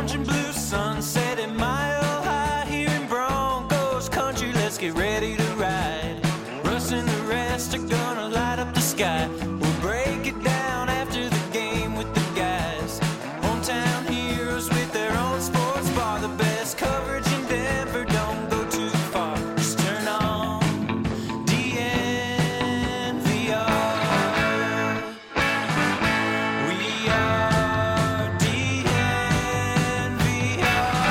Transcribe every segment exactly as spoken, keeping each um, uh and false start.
orange and blue sunset at Mile High here in Broncos country. Let's get ready to ride. Russ and the rest are gonna light up the sky. We'll break it down after the game with the guys. Hometown heroes with their own sports bar. The best coverage in Denver, don't go too far. Just turn on D N V R. We are D N V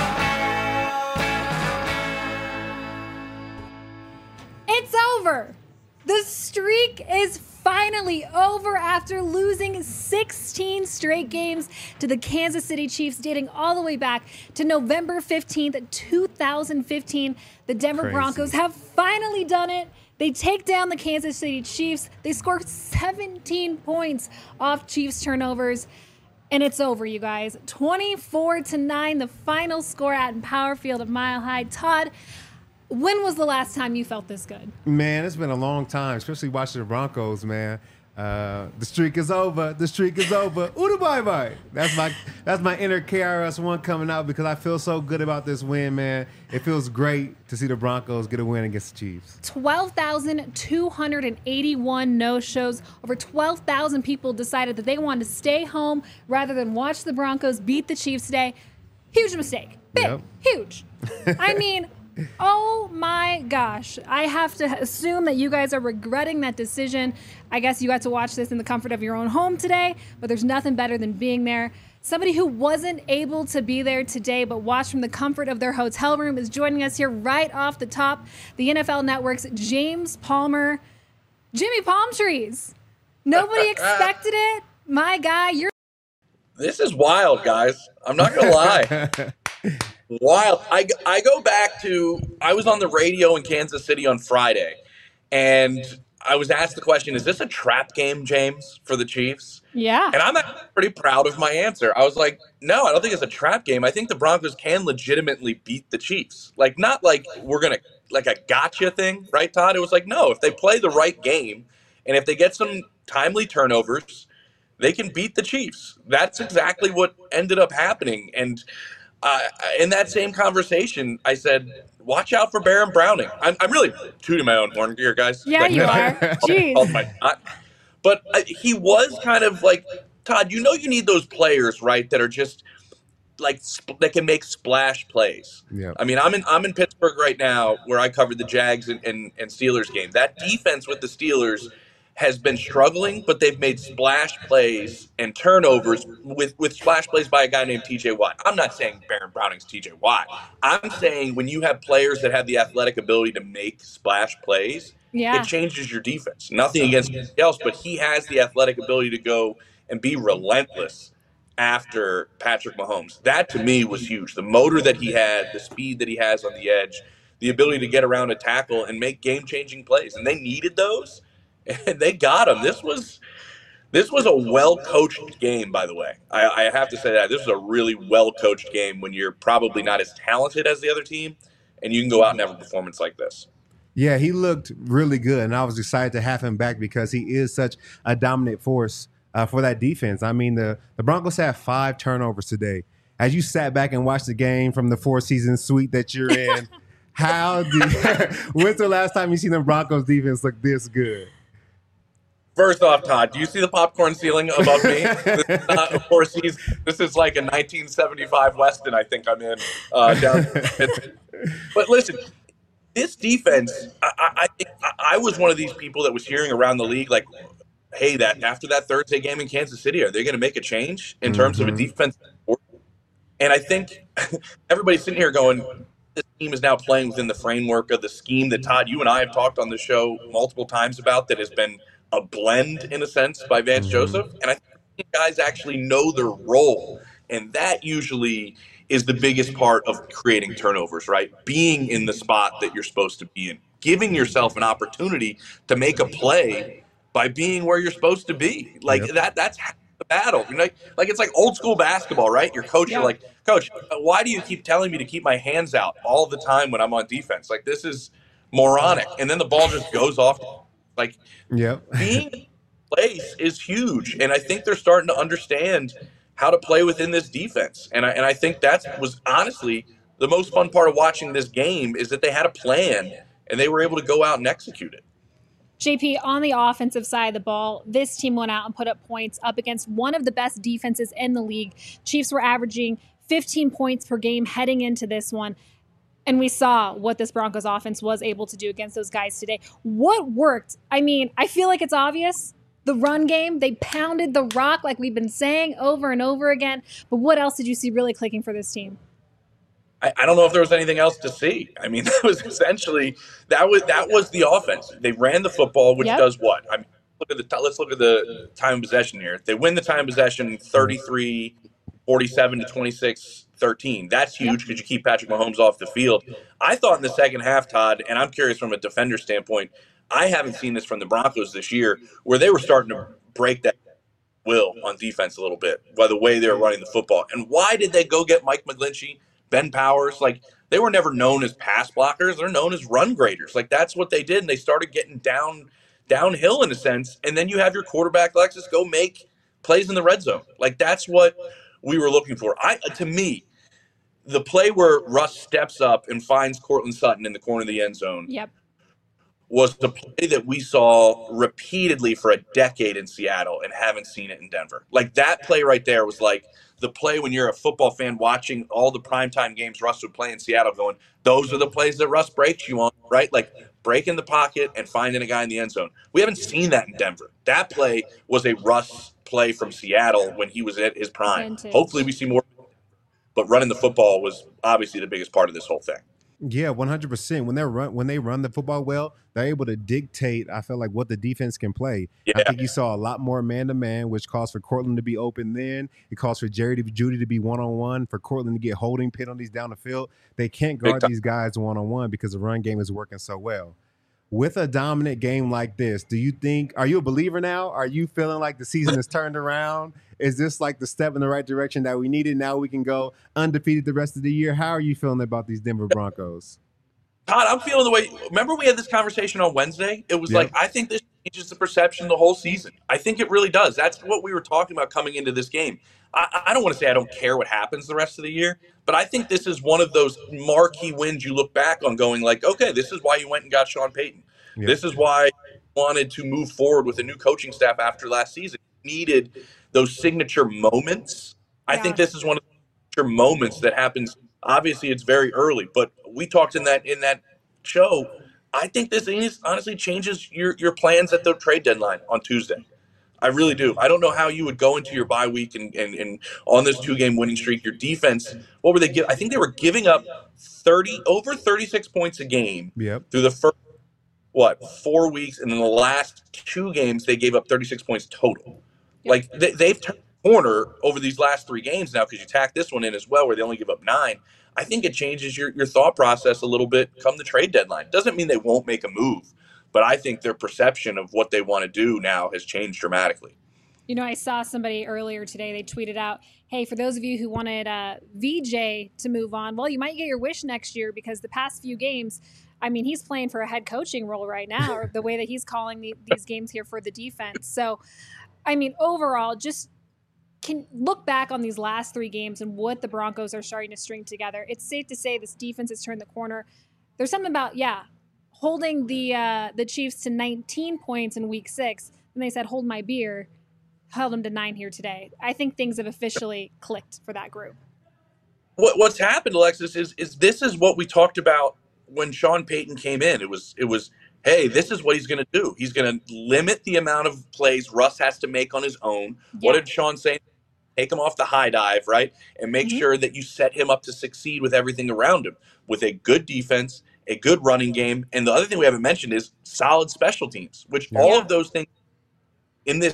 R. It's over. The streak is finally over after losing sixteen straight games to the Kansas City Chiefs, dating all the way back to November fifteenth, two thousand fifteen. The Denver Crazy. Broncos have finally done it. They take down the Kansas City Chiefs. They score seventeen points off Chiefs turnovers. And it's over, you guys. twenty-four to nine, the final score at Empower Field of Mile High. Todd, when was the last time you felt this good? Man, it's been a long time, especially watching the Broncos, man. Uh, the streak is over. The streak is over. Ooh, bye bye. That's my that's my inner K R S One coming out because I feel so good about this win, man. It feels great to see the Broncos get a win against the Chiefs. twelve thousand two hundred eighty-one no-shows. Over twelve thousand people decided that they wanted to stay home rather than watch the Broncos beat the Chiefs today. Huge mistake. Big. Yep. Huge. I mean, oh my gosh. I have to assume that you guys are regretting that decision. I guess you got to watch this in the comfort of your own home today, but there's nothing better than being there. Somebody who wasn't able to be there today but watched from the comfort of their hotel room is joining us here right off the top. The N F L Network's James Palmer. Jimmy Palm Trees. Nobody expected it. My guy, you're... This is wild, guys. I'm not going to lie. Wild. I, I go back to, I was on the radio in Kansas City on Friday, and I was asked the question, is this a trap game, James, for the Chiefs? Yeah. And I'm actually pretty proud of my answer. I was like, no, I don't think it's a trap game. I think the Broncos can legitimately beat the Chiefs. Like, not like we're going to, like a gotcha thing, right, Todd? It was like, no, if they play the right game, and if they get some timely turnovers, they can beat the Chiefs. That's exactly what ended up happening. And uh, in that same conversation, I said, watch out for Baron Browning. I'm, I'm really tooting my own horn here, guys. Yeah, Like, you are. Jeez. Oh my God. But uh, he was kind of like, Todd, you know you need those players, right, that are just like sp- that can make splash plays. Yeah. I mean, I'm in I'm in Pittsburgh right now where I covered the Jags and, and, and Steelers game. That defense with the Steelers has been struggling, but they've made splash plays and turnovers with, with splash plays by a guy named T J Watt. I'm not saying Baron Browning's T J Watt. I'm saying when you have players that have the athletic ability to make splash plays, Yeah. it changes your defense. Nothing against anybody else, but he has the athletic ability to go and be relentless after Patrick Mahomes. That, to me, was huge. The motor that he had, the speed that he has on the edge, the ability to get around a tackle and make game-changing plays. And they needed those, and they got them. This was this was a well-coached game, by the way. I, I have to say that. This was a really well-coached game when you're probably not as talented as the other team, and you can go out and have a performance like this. Yeah, he looked really good, and I was excited to have him back because he is such a dominant force uh, for that defense. I mean, the, the Broncos had five turnovers today. As you sat back and watched the game from the four-season suite that you're in, how did when's the last time you seen the Broncos defense look this good? First off, Todd, do you see the popcorn ceiling above me? This is not a four seasons. This is like a nineteen seventy-five Weston I think I'm in. Uh, down. But listen, this defense, I, I think I was one of these people that was hearing around the league like, hey, that after that Thursday game in Kansas City, are they going to make a change in terms Mm-hmm. of a defense? And I think everybody's sitting here going, this team is now playing within the framework of the scheme that, Todd, you and I have talked on the show multiple times about that has been a blend, in a sense, by Vance Mm-hmm. Joseph. And I think guys actually know their role. And that usually is the biggest part of creating turnovers, right? Being in the spot that you're supposed to be in. Giving yourself an opportunity to make a play by being where you're supposed to be. Like, Yep. that. that's the battle. You know, like it's like old school basketball, right? Your coach, Yeah. you're like, Coach, why do you keep telling me to keep my hands out all the time when I'm on defense? Like, this is moronic. And then the ball just goes off. Like, Yep. being in place is huge. And I think they're starting to understand how to play within this defense. And I, and I think that was honestly the most fun part of watching this game is that they had a plan and they were able to go out and execute it. J P, on the offensive side of the ball, this team went out and put up points up against one of the best defenses in the league. Chiefs were averaging fifteen points per game heading into this one. And we saw what this Broncos offense was able to do against those guys today. What worked? I mean, I feel like it's obvious. The run game, they pounded the rock like we've been saying over and over again. But what else did you see really clicking for this team? I, I don't know if there was anything else to see. I mean, that was essentially that was that was the offense. They ran the football, which yep. does what? I mean, look at the let's look at the time of possession here. They win the time of possession thirty-three forty-seven to twenty-six thirteen. That's huge because yep. you keep Patrick Mahomes off the field. I thought in the second half, Todd, and I'm curious from a defender standpoint, I haven't seen this from the Broncos this year, where they were starting to break that will on defense a little bit by the way they were running the football. And why did they go get Mike McGlinchey, Ben Powers? Like, they were never known as pass blockers. They're known as run graders. Like, that's what they did, and they started getting down downhill in a sense. And then you have your quarterback, Lexus, go make plays in the red zone. Like, that's what we were looking for. I To me, the play where Russ steps up and finds Courtland Sutton in the corner of the end zone yep. was the play that we saw repeatedly for a decade in Seattle and haven't seen it in Denver. Like, that play right there was like the play when you're a football fan watching all the primetime games Russ would play in Seattle going, those are the plays that Russ breaks you on, right? Like, breaking the pocket and finding a guy in the end zone. We haven't seen that in Denver. That play was a Russ play from Seattle when he was at his prime. Vintage. Hopefully we see more. But running the football was obviously the biggest part of this whole thing. Yeah, one hundred percent. When they run, when they run the football well, they're able to dictate, I feel like, what the defense can play. Yeah. I think you saw a lot more man-to-man, which calls for Courtland to be open then. It calls for Jerry to, Judy to be one-on-one, for Courtland to get holding penalties down the field. They can't guard these guys one-on-one because the run game is working so well. With a dominant game like this, do you think, are you a believer now? Are you feeling like the season has turned around? Is this like the step in the right direction that we needed? Now we can go undefeated the rest of the year. How are you feeling about these Denver Broncos? Todd, I'm feeling the way, remember we had this conversation on Wednesday? It was yep. like, I think this changes the perception of the whole season. I think it really does. That's what we were talking about coming into this game. I, I don't want to say I don't care what happens the rest of the year, but I think this is one of those marquee wins you look back on going like, okay, this is why you went and got Sean Payton. Yep. This is why you wanted to move forward with a new coaching staff after last season. You needed those signature moments. Yeah. I think this is one of the signature moments that happens. Obviously, it's very early, but we talked in that in that show. I think this is, honestly changes your, your plans at the trade deadline on Tuesday. I really do. I don't know how you would go into your bye week and, and, and on this two-game winning streak, your defense, what were they giving? I think they were giving up thirty over thirty-six points a game yep. through the first, what, four weeks. And in the last two games, they gave up thirty-six points total. Yep. Like, they, they've turned the corner over these last three games now because you tack this one in as well where they only give up nine. I think it changes your, your thought process a little bit come the trade deadline. Doesn't mean they won't make a move, but I think their perception of what they want to do now has changed dramatically. You know, I saw somebody earlier today, they tweeted out, hey, for those of you who wanted uh, V J to move on, well, you might get your wish next year because the past few games, I mean, he's playing for a head coaching role right now, or the way that he's calling the, these games here for the defense. So, I mean, overall, just can look back on these last three games and what the Broncos are starting to string together. It's safe to say this defense has turned the corner. There's something about, yeah, holding the uh, the Chiefs to nineteen points in week six. And they said, hold my beer, held them to nine here today. I think things have officially clicked for that group. What, what's happened, Alexis, is is this is what we talked about when Sean Payton came in. It was, it was hey, this is what he's going to do. He's going to limit the amount of plays Russ has to make on his own. Yeah. What did Sean say? Take him off the high dive, right? And make mm-hmm. sure that you set him up to succeed with everything around him, with a good defense, a good running game. And the other thing we haven't mentioned is solid special teams, which yeah. all of those things in this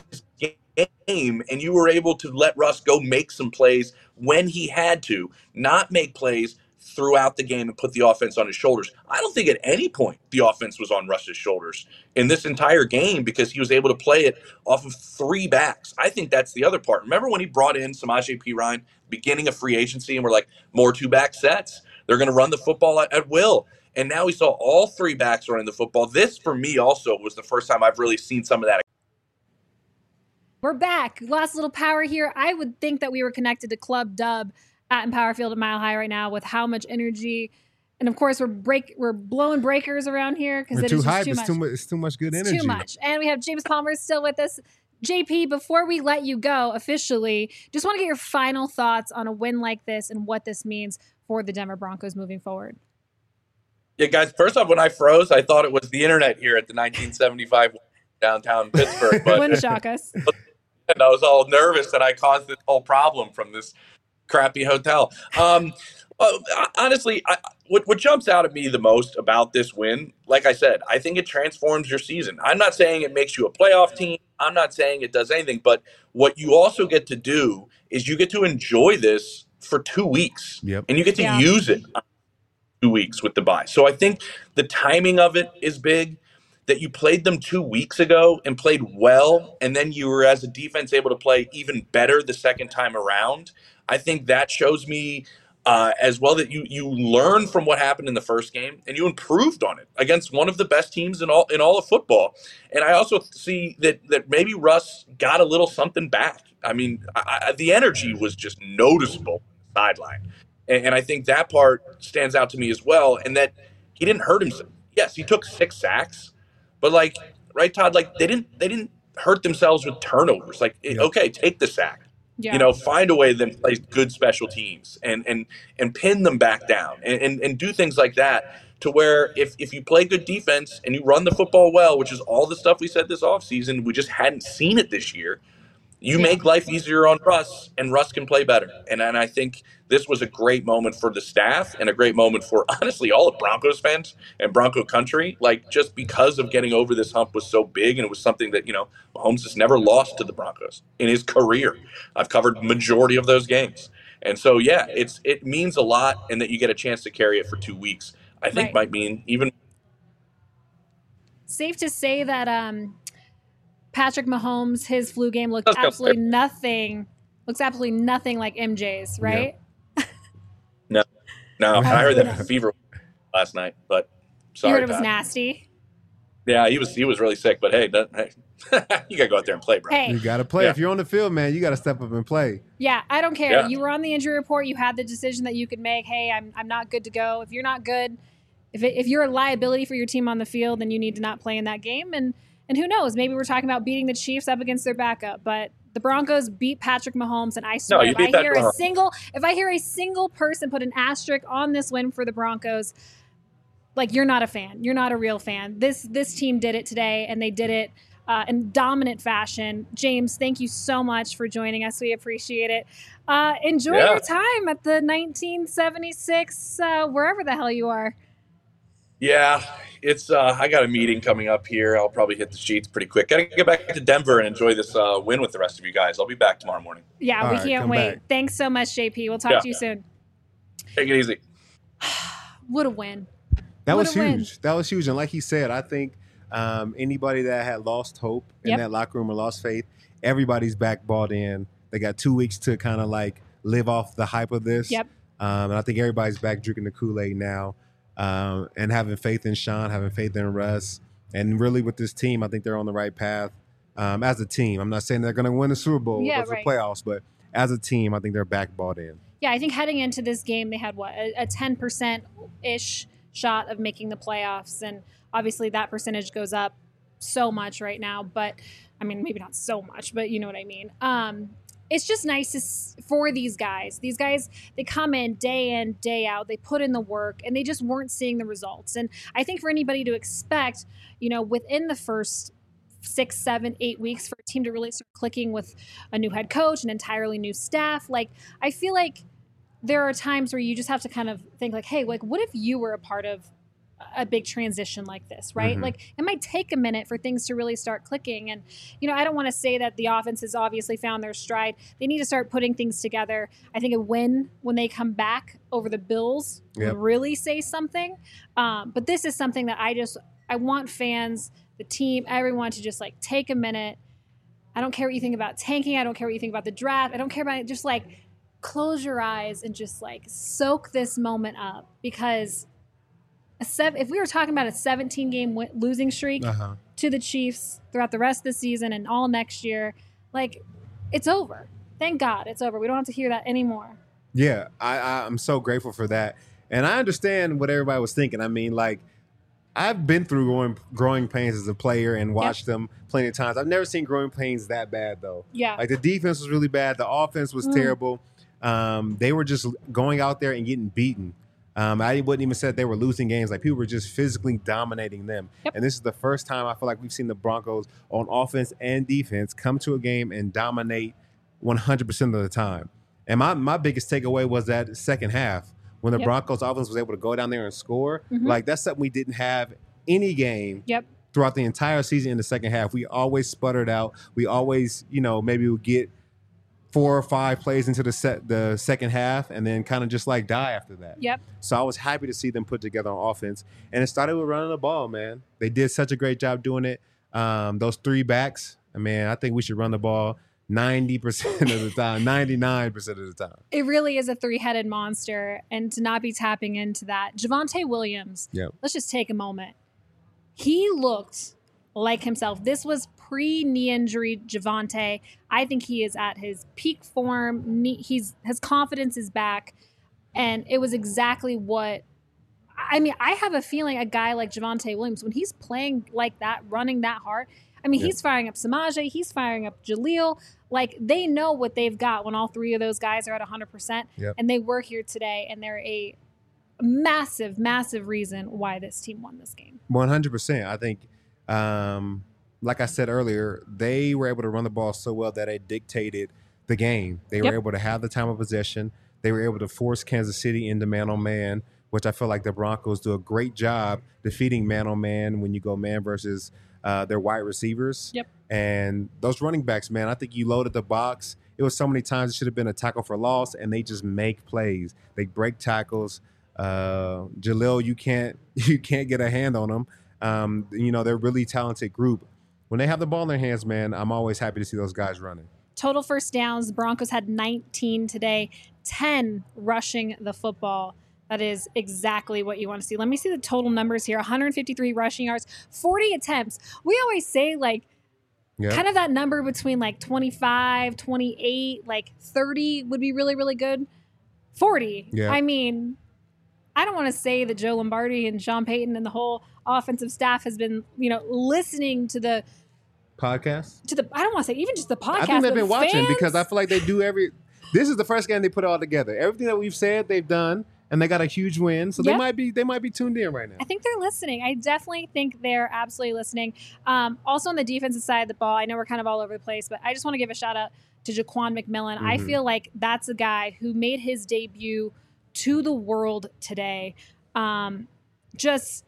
game, and you were able to let Russ go make some plays when he had to, not make plays throughout the game and put the offense on his shoulders. I don't think at any point the offense was on Russ's shoulders in this entire game because he was able to play it off of three backs. I think that's the other part. Remember when he brought in Samaje Perine, beginning of free agency, and we're like, more two-back sets. They're going to run the football at, at will. And now we saw all three backs running the football. This, for me, also was the first time I've really seen some of that. We're back. Lost a little power here. I would think that we were connected to Club Dub at Empower Field at Mile High right now with how much energy. And of course, we're break we're blowing breakers around here because it too is just hype. too it's much. too much. It's too much good It's energy. too much. And we have James Palmer still with us. J P, before we let you go officially, just want to get your final thoughts on a win like this and what this means for the Denver Broncos moving forward. Yeah, guys, first off, when I froze, I thought it was the internet here at the nineteen seventy-five downtown Pittsburgh. But Wouldn't shock us. And I was all nervous that I caused this whole problem from this crappy hotel. Um, well, honestly, I, what, what jumps out at me the most about this win, like I said, I think it transforms your season. I'm not saying it makes you a playoff team. I'm not saying it does anything. But what you also get to do is you get to enjoy this for two weeks. Yep. And you get to Yeah. use it two weeks with the bye. So I think the timing of it is big. That you played them two weeks ago and played well, and then you were, as a defense, able to play even better the second time around. I think that shows me uh, as well that you you learned from what happened in the first game and you improved on it against one of the best teams in all in all of football. And I also see that that maybe Russ got a little something back. I mean, I, I, the energy was just noticeable on the sideline, and, and I think that part stands out to me as well. And that he didn't hurt himself. Yes, he took six sacks. But like, right, Todd, like they didn't they didn't hurt themselves with turnovers. Like, Yeah. okay, take the sack. Yeah. You know, find a way to then play good special teams and and and pin them back down and, and, and do things like that to where if, if you play good defense and you run the football well, which is all the stuff we said this offseason, we just hadn't seen it this year. You Yeah. make life easier on Russ, and Russ can play better. And and I think this was a great moment for the staff and a great moment for, honestly, all of Broncos fans and Bronco country. Like, just because of getting over this hump was so big, and it was something that, you know, Mahomes has never lost to the Broncos in his career. I've covered majority of those games. And so, yeah, it's it means a lot, and that you get a chance to carry it for two weeks, I think Right. might mean even Safe to say that um, Patrick Mahomes, his flu game looked Let's go. absolutely nothing, looks absolutely nothing like M J's, right? no. I heard Yeah. that fever last night, but You sorry, heard it was Todd. nasty. Yeah, he was he was really sick, but hey, that, hey you gotta go out there and play, bro. Hey, You got to play. Yeah. If you're on the field, man, you got to step up and play. yeah, I don't care. Yeah. You were on the injury report. You had the decision that you could make. Hey, I'm I'm not good to go. If you're not good, if it, if you're a liability for your team on the field, then you need to not play in that game. And and who knows? Maybe we're talking about beating the Chiefs up against their backup, but the Broncos beat Patrick Mahomes, and I swear, you if beat I hear Patrick a Mahomes. single, if I hear a single person put an asterisk on this win for the Broncos, like, you're not a fan. You're not a real fan. This this team did it today, and they did it uh, in dominant fashion. James, thank you so much for joining us. We appreciate it. Uh, enjoy Yeah. your time at the nineteen seventy-six, uh, wherever the hell you are. Yeah, it's uh, I got a meeting coming up here. I'll probably hit the sheets pretty quick. Gotta get back to Denver and enjoy this uh, win with the rest of you guys. I'll be back tomorrow morning. Yeah, All we right, can't come wait. back. Thanks so much, J P. We'll talk Yeah. to you soon. Take it easy. What a win. That What was a win. huge. That was huge. And like he said, I think um, anybody that had lost hope in Yep. that locker room or lost faith, everybody's back bought in. They got two weeks to kind of like live off the hype of this. Yep. Um, and I think everybody's back drinking the Kool-Aid now um, and having faith in Sean, having faith in Russ. And really with this team, I think they're on the right path um, as a team. I'm not saying they're going to win the Super Bowl Yeah, or the right. playoffs, but as a team, I think they're back bought in. Yeah, I think heading into this game, they had what, a, a ten percent ish shot of making the playoffs. And obviously that percentage goes up so much right now. But I mean, maybe not so much, but you know what I mean. Um, it's just nice to, s- for these guys. These guys, they come in day in, day out. They put in the work, and they just weren't seeing the results. And I think for anybody to expect, you know, within the first six, seven, eight weeks for a team to really start clicking with a new head coach, an entirely new staff, like, I feel like there are times where you just have to kind of think like, hey, like, what if you were a part of a big transition like this, right? Mhm. Like, it might take a minute for things to really start clicking. And, you know, I don't want to say that the offense has obviously found their stride. They need to start putting things together. I think a win when they come back over the Bills Yep. would really say something. Um, but this is something that I just, I want fans, the team, everyone to just like take a minute. I don't care what you think about tanking. I don't care what you think about the draft. I don't care about it. Just like close your eyes and just like soak this moment up, because a seven, if we were talking about a seventeen game win- losing streak Uh-huh. to the Chiefs throughout the rest of the season and all next year, like it's over. Thank God it's over. We don't have to hear that anymore. Yeah, I, I, I'm so grateful for that. And I understand what everybody was thinking. I mean, like, I've been through growing, growing pains as a player and watched yep. them plenty of times. I've never seen growing pains that bad, though. Yeah. Like, the defense was really bad. The offense was mm. terrible. Um, they were just going out there and getting beaten. Um, I wouldn't even say they were losing games. Like, people were just physically dominating them. Yep. And this is the first time I feel like we've seen the Broncos on offense and defense come to a game and dominate one hundred percent of the time. And my, my biggest takeaway was that second half. When the yep. Broncos offense was able to go down there and score, mm-hmm. like that's something we didn't have any game yep. throughout the entire season in the second half. We always sputtered out. We always, you know, maybe would get four or five plays into the set, the second half and then kind of just like die after that. Yep. So I was happy to see them put together on offense. And it started with running the ball, man. They did such a great job doing it. Um, those three backs, I mean, I think we should run the ball ninety percent of the time, ninety-nine percent of the time. It really is a three-headed monster, and to not be tapping into that. Javonte Williams, yep. let's just take a moment. He looked like himself. This was pre-knee injury Javonte. I think he is at his peak form. He's his confidence is back, and it was exactly what I mean, I have a feeling a guy like Javonte Williams, when he's playing like that, running that hard, I mean, yep. he's firing up Samaje, he's firing up Jaleel. Like, they know what they've got when all three of those guys are at one hundred percent. Yep. And they were here today, and they're a massive, massive reason why this team won this game. one hundred percent. I think, um, like I said earlier, they were able to run the ball so well that it dictated the game. They were Yep. able to have the time of possession. They were able to force Kansas City into man-on-man, which I feel like the Broncos do a great job defeating man-on-man when you go man versus uh, their wide receivers. Yep. And those running backs, man, I think you loaded the box. It was so many times it should have been a tackle for loss, and they just make plays. They break tackles. Uh, Jaleel, you can't you can't get a hand on them. Um, you know, they're a really talented group. When they have the ball in their hands, man, I'm always happy to see those guys running. Total first downs, the Broncos had nineteen today, ten rushing the football. That is exactly what you want to see. Let me see the total numbers here. one hundred fifty-three rushing yards, forty attempts. We always say, like, Yep. kind of that number between, like, twenty-five, twenty-eight, like, thirty would be really, really good. forty. Yeah. I mean, I don't want to say that Joe Lombardi and Sean Payton and the whole offensive staff has been, you know, listening to the Podcast? to the. I don't want to say even just the podcast. I think they've but been watching fans, because I feel like they do every – this is the first game they put it all together. Everything that we've said, they've done, and they got a huge win. So Yep. they might be they might be tuned in right now. I think they're listening. I definitely think they're absolutely listening. Um, also on the defensive side of the ball, I know we're kind of all over the place, but I just want to give a shout out to Jaquan McMillan. Mm-hmm. I feel like that's a guy who made his debut to the world today. Um, just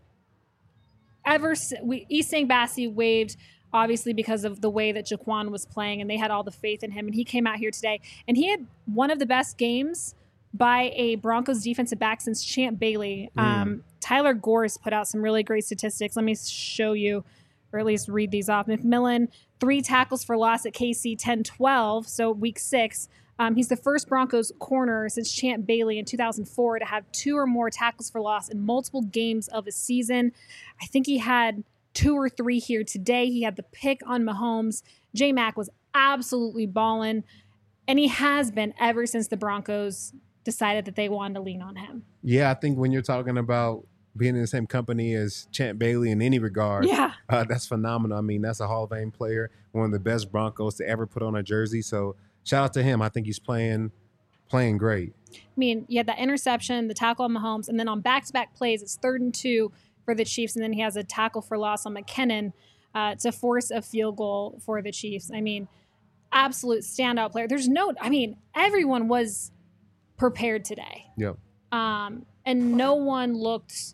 ever since we East Saint Bassie waved, obviously because of the way that Jaquan was playing, and they had all the faith in him. And he came out here today, and he had one of the best games by a Broncos defensive back since Champ Bailey. Mm. Um, Tyler Gorse put out some really great statistics. Let me show you, or at least read these off. McMillan, three tackles for loss at K C ten twelve, so week six. Um, he's the first Broncos corner since Champ Bailey in two thousand four to have two or more tackles for loss in multiple games of a season. I think he had two or three here today. He had the pick on Mahomes. J-Mac was absolutely balling, and he has been ever since the Broncos decided that they wanted to lean on him. Yeah, I think when you're talking about being in the same company as Champ Bailey in any regard, Yeah. uh, that's phenomenal. I mean, that's a Hall of Fame player, one of the best Broncos to ever put on a jersey. So shout out to him. I think he's playing playing great. I mean, you had that interception, the tackle on Mahomes, and then on back-to-back plays, it's third and two for the Chiefs, and then he has a tackle for loss on McKinnon uh, to force a field goal for the Chiefs. I mean, absolute standout player. There's no, I mean, everyone was prepared today. Yep. Um, and no one looked,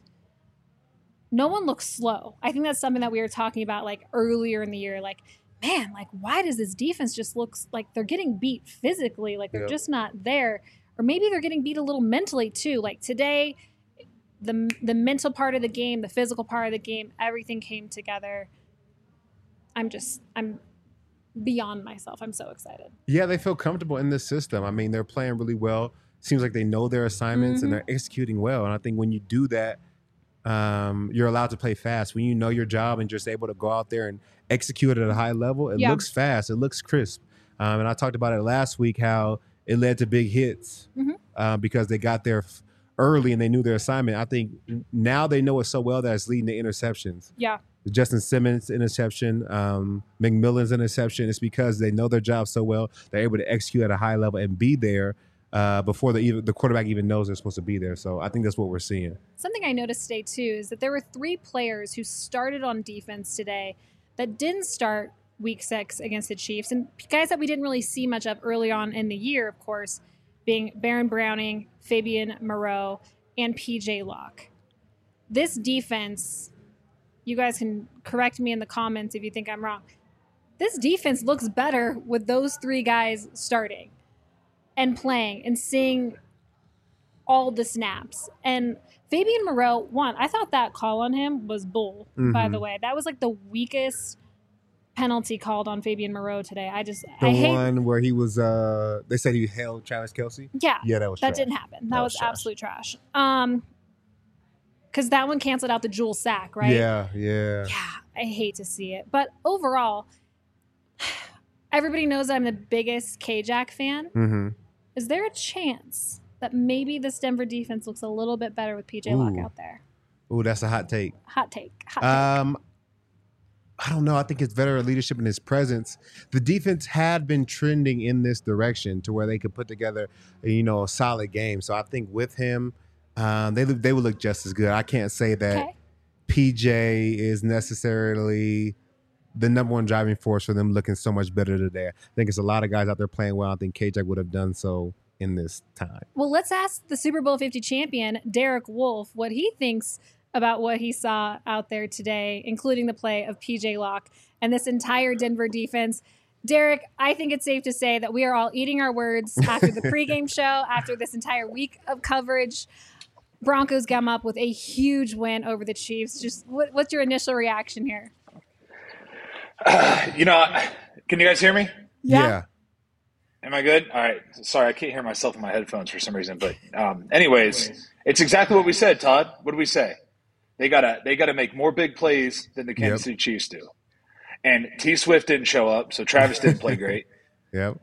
no one looked slow. I think that's something that we were talking about like earlier in the year. Like, man, like why does this defense just looks like they're getting beat physically? Like they're Yep. just not there, or maybe they're getting beat a little mentally too. Like today, the the mental part of the game, the physical part of the game, everything came together. I'm just, I'm beyond myself. I'm so excited. Yeah, they feel comfortable in this system. I mean, they're playing really well. Seems like they know their assignments Mm-hmm. and they're executing well. And I think when you do that, um, you're allowed to play fast. When you know your job and just able to go out there and execute it at a high level, it Yeah. looks fast. It looks crisp. Um, and I talked about it last week how it led to big hits Mm-hmm. uh, because they got there f- early and they knew their assignment. I think now they know it so well that it's leading to interceptions. Yeah. Justin Simmons interception, um, McMillan's interception. It's because they know their job so well. They're able to execute at a high level and be there uh, before the even, the quarterback even knows they're supposed to be there. So I think that's what we're seeing. Something I noticed today, too, is that there were three players who started on defense today that didn't start week six against the Chiefs. And guys that we didn't really see much of early on in the year, of course, being Baron Browning, Fabian Moreau, and P J Locke. This defense, you guys can correct me in the comments if you think I'm wrong. This defense looks better with those three guys starting and playing and seeing all the snaps. And Fabian Moreau, one, I thought that call on him was bull, mm-hmm. by the way. That was like the weakest penalty called on Fabian Moreau today. I just the I one hate, where he was uh they said he held Travis Kelce. Yeah. Yeah, that was that trash. didn't happen. That, That was, was trash. absolute trash. Um because that one canceled out the Jewel sack, right? Yeah, yeah. Yeah, I hate to see it. But overall, everybody knows I'm the biggest K-Jack fan. Mm-hmm. Is there a chance that maybe this Denver defense looks a little bit better with P J Locke Ooh. out there? Ooh, that's a hot take. Hot take. Hot take. Um, I don't know. I think it's veteran leadership and his presence. The defense had been trending in this direction to where they could put together, you know, a solid game. So I think with him, um, they look, they would look just as good. I can't say that Okay. P J is necessarily the number one driving force for them looking so much better today. I think it's a lot of guys out there playing well. I think K-Jack would have done so in this time. Well, let's ask the Super Bowl fifty champion, Derek Wolfe, what he thinks about what he saw out there today, including the play of P J Locke and this entire Denver defense. Derek, I think it's safe to say that we are all eating our words after the pregame show, after this entire week of coverage. Broncos come up with a huge win over the Chiefs. Just what, what's your initial reaction here? Uh, you know, can you guys hear me? Yeah. Am I good? All right. Sorry, I can't hear myself in my headphones for some reason. But um, anyways, it's exactly what we said, Todd. What did we say? They gotta they gotta make more big plays than the Kansas Yep. City Chiefs do. And T Swift didn't show up, so Travis didn't play great. Yep.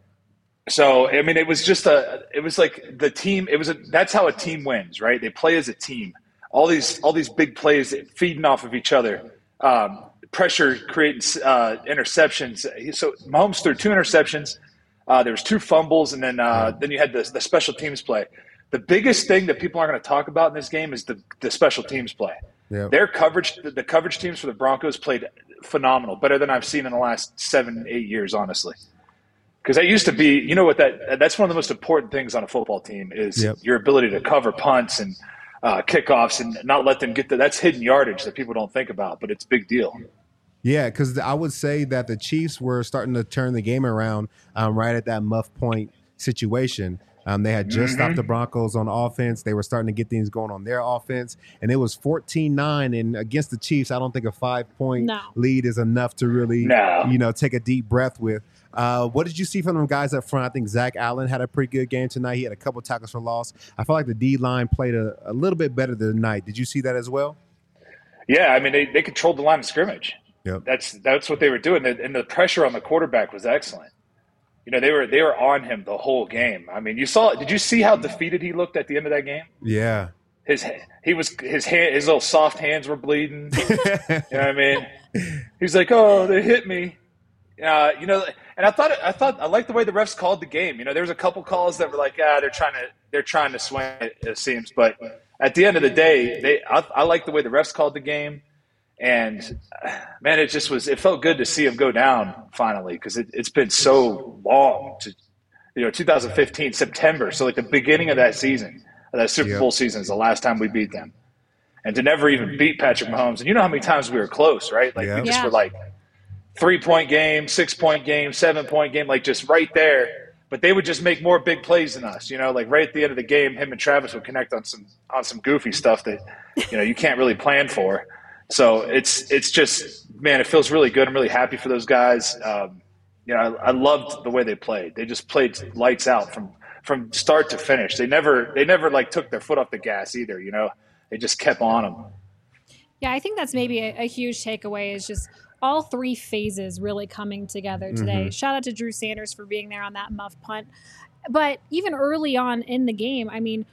So I mean, it was just a. It was like the team. It was a. That's how a team wins, right? They play as a team. All these all these big plays feeding off of each other. Um, pressure creating uh, interceptions. So Mahomes threw two interceptions. Uh, there was two fumbles, and then uh, then you had the the special teams play. The biggest thing that people aren't going to talk about in this game is the the special teams play. Yep. Their coverage, the, the coverage teams for the Broncos played phenomenal, better than I've seen in the last seven, eight years, honestly. Because that used to be, you know what, that that's one of the most important things on a football team is Yep. your ability to cover punts and uh, kickoffs and not let them get the, that's hidden yardage that people don't think about, but it's a big deal. Yeah, because I would say that the Chiefs were starting to turn the game around um, right at that muff point situation. Um, they had just stopped the Broncos on offense. They were starting to get things going on their offense, and it was fourteen nine. And against the Chiefs, I don't think a five-point No. lead is enough to really, No. you know, take a deep breath with. Uh, what did you see from them guys up front? I think Zach Allen had a pretty good game tonight. He had a couple tackles for loss. I felt like the D-line played a, a little bit better tonight. Did you see that as well? Yeah, I mean, they, they controlled the line of scrimmage. Yep. That's that's what they were doing, and the pressure on the quarterback was excellent. You know, they were they were on him the whole game. I mean, you saw. Did you see how defeated he looked at the end of that game? Yeah. His he was his hand his little soft hands were bleeding. You know what I mean? He's like, "Oh, they hit me." Uh, you know, and I thought I thought I liked the way the refs called the game. You know, there was a couple calls that were like, "Ah, they're trying to they're trying to swing it." It seems, but at the end of the day, they I, I like the way the refs called the game. And man, it just was. It felt good to see him go down finally because it, it's been so long. To you know, two thousand fifteen September, so like the beginning of that season, of that Super Yep. Bowl season is the last time we beat them, and to never even beat Patrick Mahomes. And you know how many times we were close, right? Like Yep. we just Yeah. were like three point game, six point game, seven point game, like just right there. But they would just make more big plays than us. You know, like right at the end of the game, him and Travis would connect on some on some goofy stuff that you know you can't really plan for. So it's it's just, man, it feels really good. I'm really happy for those guys. Um, you know, I, I loved the way they played. They just played lights out from from start to finish. They never they never like took their foot off the gas either. You know, they just kept on them. Yeah, I think that's maybe a, a huge takeaway is just all three phases really coming together today. Mm-hmm. Shout out to Drew Sanders for being there on that muff punt. But even early on in the game, I mean,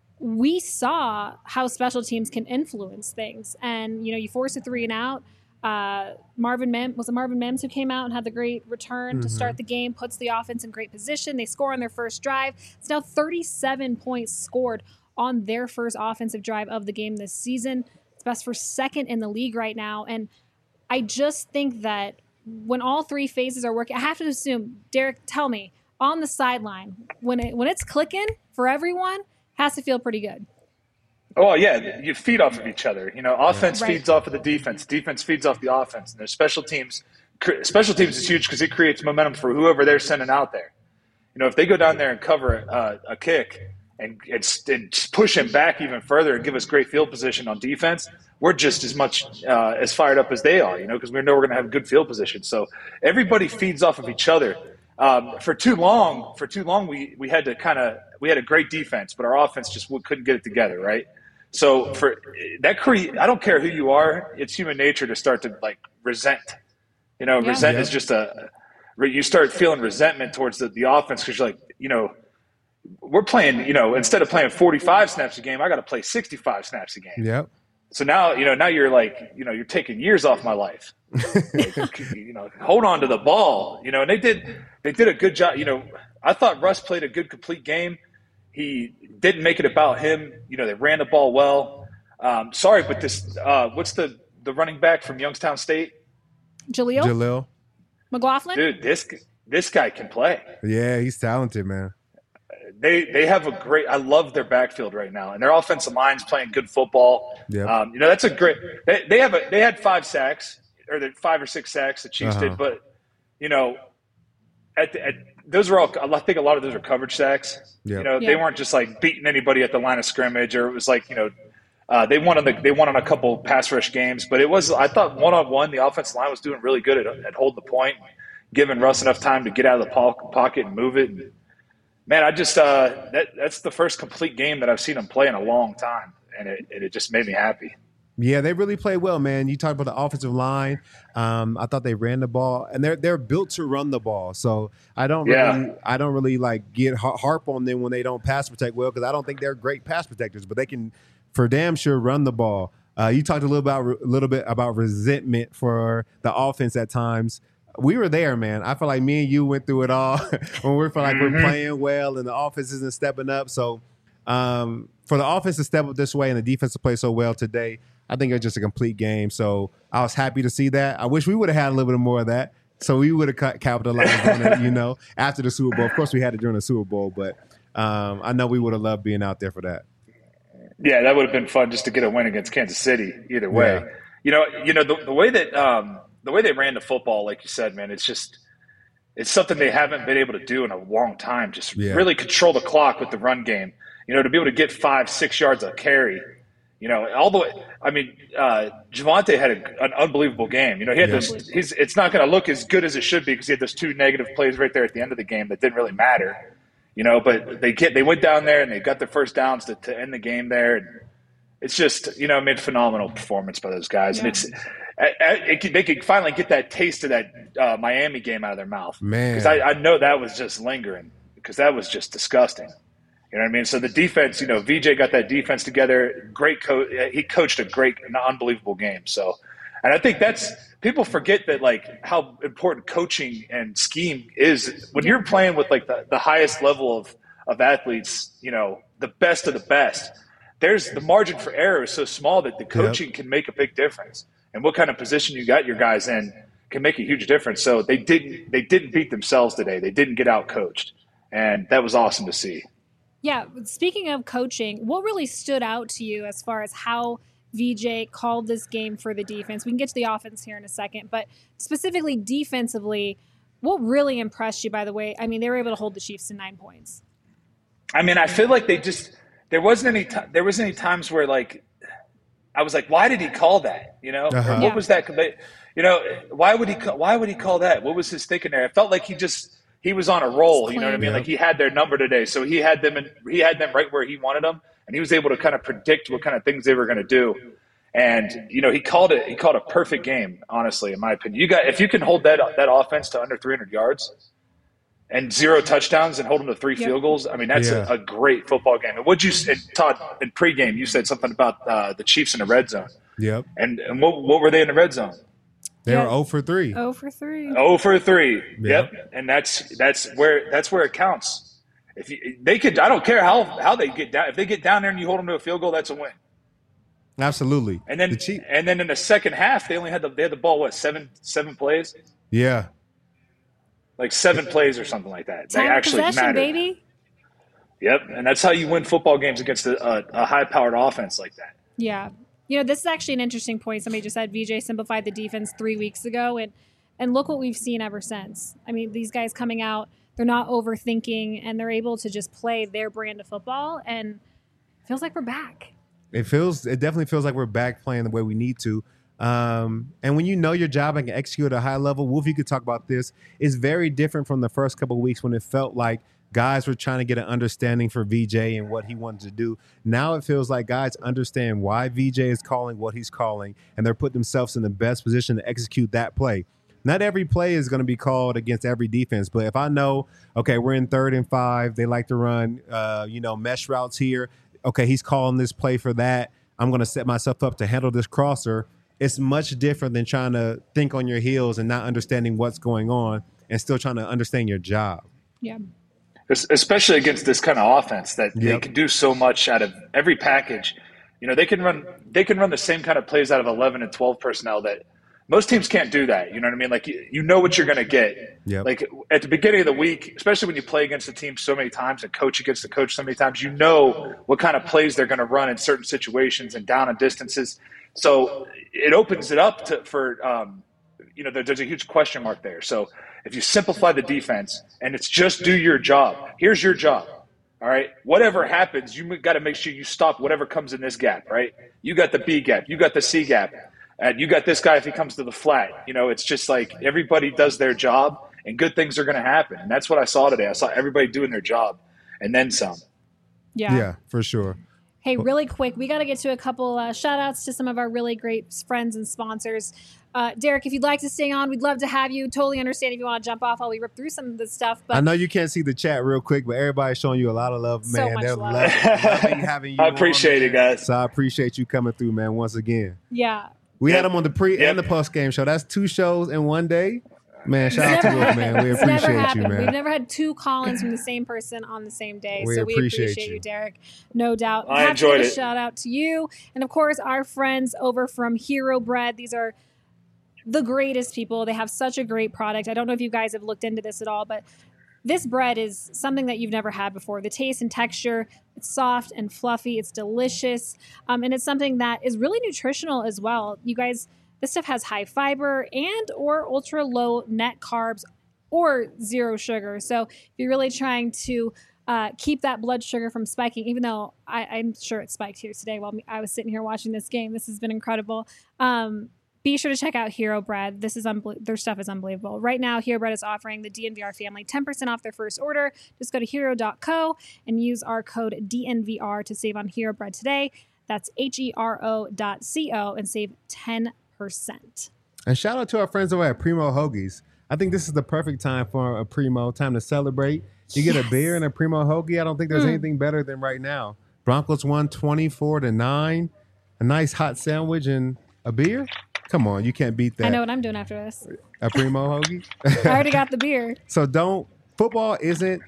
we saw how special teams can influence things. And, you know, you force a three and out. Uh, Marvin Mims, was it Marvin Mims who came out and had the great return mm-hmm. to start the game, puts the offense in great position. They score on their first drive. It's now thirty-seven points scored on their first offensive drive of the game this season. It's best for second in the league right now. And I just think that when all three phases are working, I have to assume, Derek, tell me, on the sideline, when it when it's clicking for everyone, has to feel pretty good. Oh, yeah, you feed off of each other. You know, offense right. feeds off of the defense. Defense feeds off the offense. And there's special teams. Special teams is huge because it creates momentum for whoever they're sending out there. You know, if they go down there and cover uh, a kick and, and, and push him back even further and give us great field position on defense, we're just as much uh, as fired up as they are, you know, because we know we're going to have good field position. So everybody feeds off of each other. Um, for too long, for too long, we, we had to kind of – we had a great defense, but our offense just couldn't get it together, right? So for that, cre- I don't care who you are. It's human nature to start to like resent. You know, yeah. resent yeah. is just a. You start feeling resentment towards the, the offense because you're like, you know, we're playing. You know, instead of playing forty-five snaps a game, I got to play sixty-five snaps a game. Yep. So now, you know, now you're like, you know, you're taking years off my life. Like, you know, hold on to the ball. You know, and they did. They did a good job. You know, I thought Russ played a good complete game. He didn't make it about him. You know, they ran the ball well. Um, sorry, but this uh, – what's the, the running back from Youngstown State? Jaleel? Jaleel. McLaughlin? Dude, this this guy can play. Yeah, he's talented, man. They they have a great – I love their backfield right now. And their offensive line's playing good football. Yep. Um, you know, that's a great they, – they have a they had five sacks or the five or six sacks the Chiefs Uh-huh. did. But, you know, at, the, at those are all – I think a lot of those are coverage sacks. Yep. You know, Yeah. they weren't just like beating anybody at the line of scrimmage, or it was like, you know, uh, they won on the they won on a couple pass rush games. But it was, I thought, one on one, the offensive line was doing really good at, at holding the point, giving Russ enough time to get out of the po- pocket and move it. And, man, I just uh, that that's the first complete game that I've seen him play in a long time, and it it just made me happy. Yeah, they really played well, man. You talked about the offensive line. Um, I thought they ran the ball, and they're they're built to run the ball. So I don't really, Yeah. I don't really like get har- harp on them when they don't pass protect well, because I don't think they're great pass protectors, but they can, for damn sure, run the ball. Uh, you talked a little about a little bit about resentment for the offense at times. We were there, man. I feel like me and you went through it all when we feel like Mm-hmm. we're playing well and the offense isn't stepping up. So um, for the offense to step up this way and the defense to play so well today, I think it was just a complete game. So I was happy to see that. I wish we would have had a little bit more of that. So we would have capitalized on it, you know, after the Super Bowl. Of course, we had it during the Super Bowl, but um, I know we would have loved being out there for that. Yeah, that would have been fun just to get a win against Kansas City. Either way, Yeah. you know, you know the, the way that um, the way they ran the football, like you said, man, it's just it's something they haven't been able to do in a long time. Just Yeah. really control the clock with the run game. You know, to be able to get five, six yards a carry. You know, all the way. I mean, uh, Javonte had a, an unbelievable game. You know, he had Yeah. those. He's. It's not going to look as good as it should be because he had those two negative plays right there at the end of the game that didn't really matter. You know, but they get they went down there and they got their first downs to, to end the game there. And it's just, you know, I mean, phenomenal performance by those guys, Yeah. and it's it, it, they could finally get that taste of that uh, Miami game out of their mouth, Man. because I, I know that was just lingering because that was just disgusting. You know what I mean? So the defense, you know, V J got that defense together. Great coach. He coached a great, an unbelievable game. So, and I think that's people forget that like how important coaching and scheme is when you're playing with like the, the highest level of of athletes. You know, the best of the best. There's the margin for error is so small that the coaching can make a big difference. And what kind of position you got your guys in can make a huge difference. So they didn't they didn't beat themselves today. They didn't get out coached, and that was awesome to see. Yeah, speaking of coaching, what really stood out to you as far as how V J called this game for the defense? We can get to the offense here in a second, but specifically defensively, what really impressed you, by the way? I mean, they were able to hold the Chiefs to nine points. I mean, I feel like they just there wasn't any t- there wasn't any times where like I was like, why did he call that? You know, Uh-huh. or what Yeah. was that? You know, why would he ca- why would he call that? What was his thinking there? I felt like he just he was on a roll. It's You know what I clean. mean? Yeah. Like he had their number today, so he had them in, he had them right where he wanted them, and he was able to kind of predict what kind of things they were going to do. And you know, he called it. He called a perfect game, honestly, in my opinion. You got if you can hold that that offense to under three hundred yards and zero touchdowns and hold them to three Yep. field goals. I mean, that's Yeah. a, a great football game. And what you said, Todd, in pregame, you said something about uh, the Chiefs in the red zone. Yep. And, and what, what were they in the red zone? They Yeah. were zero for three. Oh for three. Oh for three. Yep. Yep. And that's that's where that's where it counts. If you, they could, I don't care how how they get down. If they get down there and you hold them to a field goal, that's a win. Absolutely. And then the Chief- and then in the second half, they only had the they had the ball what seven seven plays, yeah. like seven plays or something like that. They Time of actually possession, mattered. baby. Yep. And that's how you win football games against a, a, a high powered offense like that. Yeah. You know, this is actually an interesting point. Somebody just said V J simplified the defense three weeks ago, and and look what we've seen ever since. I mean, these guys coming out, they're not overthinking, and they're able to just play their brand of football, and it feels like we're back. It feels. It definitely feels like we're back playing the way we need to. Um, and when you know your job and can execute at a high level, Wolf, you could talk about this. It's very different from the first couple of weeks when it felt like guys were trying to get an understanding for V J and what he wanted to do. Now it feels like guys understand why V J is calling what he's calling, and they're putting themselves in the best position to execute that play. Not every play is going to be called against every defense, but if I know, okay, we're in third and five, they like to run, uh, you know, mesh routes here. Okay, he's calling this play for that. I'm going to set myself up to handle this crosser. It's much different than trying to think on your heels and not understanding what's going on and still trying to understand your job. Yeah. Especially against this kind of offense that they Yep. can do so much out of every package. You know, they can run they can run the same kind of plays out of eleven and twelve personnel that most teams can't do that. You know what I mean? Like you, you know what you're going to get. Yep. Like at the beginning of the week, especially when you play against a team so many times and coach against the coach so many times, you know what kind of plays they're going to run in certain situations and down and distances. So it opens it up to, for, um, you know, there, there's a huge question mark there. So if you simplify the defense and it's just do your job, here's your job. All right. Whatever happens, you got to make sure you stop whatever comes in this gap, right? You got the B gap, you got the C gap. And you got this guy if he comes to the flat. You know, it's just like everybody does their job and good things are going to happen. And that's what I saw today. I saw everybody doing their job and then some. Yeah. Yeah, for sure. Hey, really quick, we got to get to a couple uh, shout outs to some of our really great friends and sponsors. Uh, Derek, if you'd like to stay on, we'd love to have you. Totally understand if you want to jump off while we rip through some of this stuff. But I know you can't see the chat real quick, but everybody's showing you a lot of love, So man. much They're love. loving, loving having you I appreciate on, it, man. guys. So I appreciate you coming through, man, once again. yeah. We Yep. had him on the pre Yep. and the post game show. That's two shows in one day. Man, shout out It's to never Wolf, man. We It's never appreciate you, happened. man. We've never had two call-ins from the same person on the same day. We so we appreciate appreciate you. you. Derek. No doubt. I Have to enjoyed give a it. shout out to you. And of course, our friends over from Hero Bread. These are the greatest people. They have such a great product. I don't know if you guys have looked into this at all, but this bread is something that you've never had before. The taste and texture, it's soft and fluffy. It's delicious. Um, and it's something that is really nutritional as well. You guys, this stuff has high fiber and or ultra low net carbs or zero sugar. So if you're really trying to uh, keep that blood sugar from spiking, even though I, I'm sure it spiked here today while I was sitting here watching this game. This has been incredible. Um, Be sure to check out Hero Bread. This is unbel- their stuff is unbelievable. Right now, Hero Bread is offering the D N V R family ten percent off their first order. Just go to hero dot co and use our code D N V R to save on Hero Bread today. That's H E R O dot C O and save ten percent. And shout out to our friends over at Primo Hoagies. I think this is the perfect time for a Primo, time to celebrate. You get Yes. a beer and a Primo Hoagie. I don't think there's Mm. anything better than right now. Broncos won twenty-four to nine. A nice hot sandwich and a beer. Come on, you can't beat that. I know what I'm doing after this. A Primo Hoagie. I already got the beer. So don't. Football isn't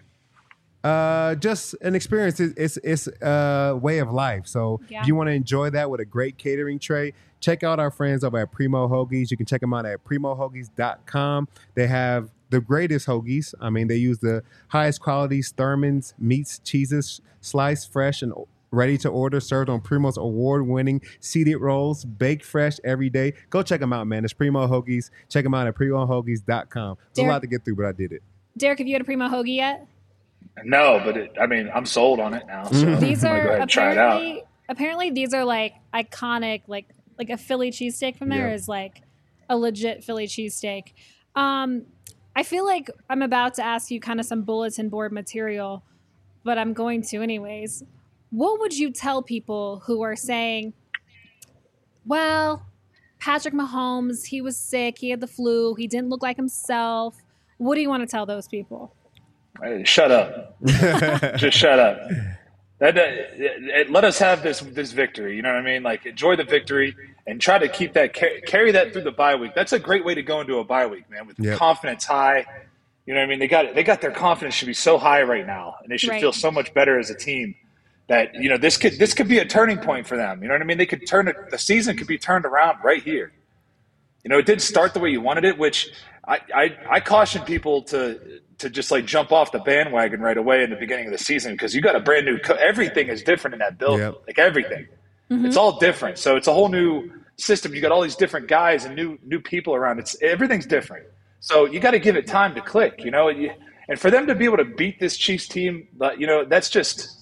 uh, just an experience. It's it's, it's a way of life. So Yeah. if you want to enjoy that with a great catering tray, check out our friends over at Primo Hoagies. You can check them out at primo hoagies dot com. They have the greatest hoagies. I mean, they use the highest quality Thurman's meats, cheeses, sliced fresh and ready to order, served on Primo's award-winning seeded rolls, baked fresh every day. Go check them out, man. It's Primo Hoagies. Check them out at primo hoagies dot com. It's a Derek- lot to get through, but I did it. Derek, have you had a Primo Hoagie yet? No, but it, I mean, I'm sold on it now. So These I'm gonna are go ahead and try it out. apparently apparently these are like iconic, like like a Philly cheesesteak from there Yeah. is like a legit Philly cheesesteak. Um, I feel like I'm about to ask you kind of some bulletin board material, but I'm going to anyways. What would you tell people who are saying, well, Patrick Mahomes, he was sick. He had the flu. He didn't look like himself. What do you want to tell those people? Hey, shut up. Just shut up. That, that it, let us have this this victory. You know what I mean? Like, enjoy the victory and try to keep that carry that through the bye week. That's a great way to go into a bye week, man, with yep. confidence high. You know what I mean? They got they got their confidence should be so high right now, and they should right. feel so much better as a team. That, you know, this could this could be a turning point for them. You know what I mean? They could turn it. The season could be turned around right here. You know, it didn't start the way you wanted it, which I I, I caution people to to just like jump off the bandwagon right away in the beginning of the season, because you got a brand new co- everything is different in that building. Yep. Like everything, mm-hmm. It's all different. So it's a whole new system. You got all these different guys and new new people around. It's everything's different. So you got to give it time to click. You know, you, and for them to be able to beat this Chiefs team, you know, that's just.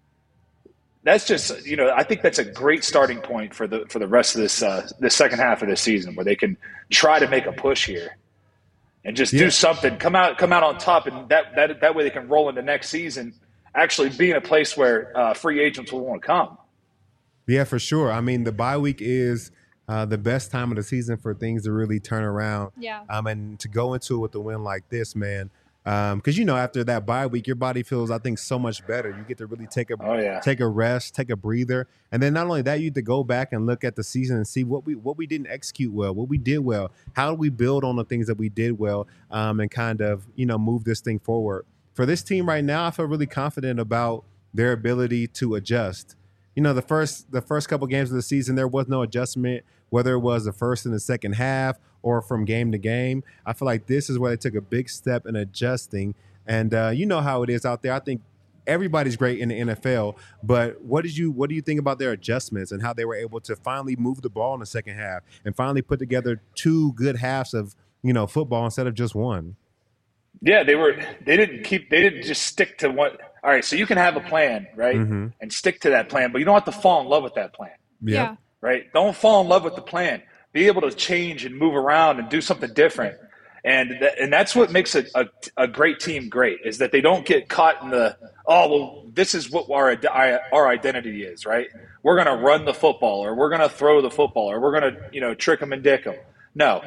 That's just, you know, I think that's a great starting point for the for the rest of this uh, the second half of this season, where they can try to make a push here and just yeah. do something, come out come out on top, and that that that way they can roll into next season, actually be in a place where uh, free agents will want to come. Yeah, for sure. I mean, the bye week is uh, the best time of the season for things to really turn around. Yeah. Um, and to go into it with a win like this, man. Um, because you know, after that bye week, your body feels, I think, so much better. You get to really take a oh, yeah. take a rest, take a breather, and then not only that, you get to go back and look at the season and see what we what we didn't execute well, what we did well, how do we build on the things that we did well, um, and kind of, you know, move this thing forward. For this team right now, I feel really confident about their ability to adjust. You know, the first the first couple games of the season, there was no adjustment, whether it was the first and the second half or from game to game. I feel like this is where they took a big step in adjusting. And uh, you know how it is out there. I think everybody's great in the N F L, but what did you what do you think about their adjustments and how they were able to finally move the ball in the second half and finally put together two good halves of, you know, football instead of just one? Yeah, they were they didn't keep they didn't just stick to what all right, so you can have a plan, right? Mm-hmm. And stick to that plan, but you don't have to fall in love with that plan. Yep. Yeah. Right? Don't fall in love with the plan. Be able to change and move around and do something different. And th- and that's what makes a, a, a great team great, is that they don't get caught in the, oh, well, this is what our our identity is, right? We're going to run the football, or we're going to throw the football, or we're going to, you know, trick them and dick them. No.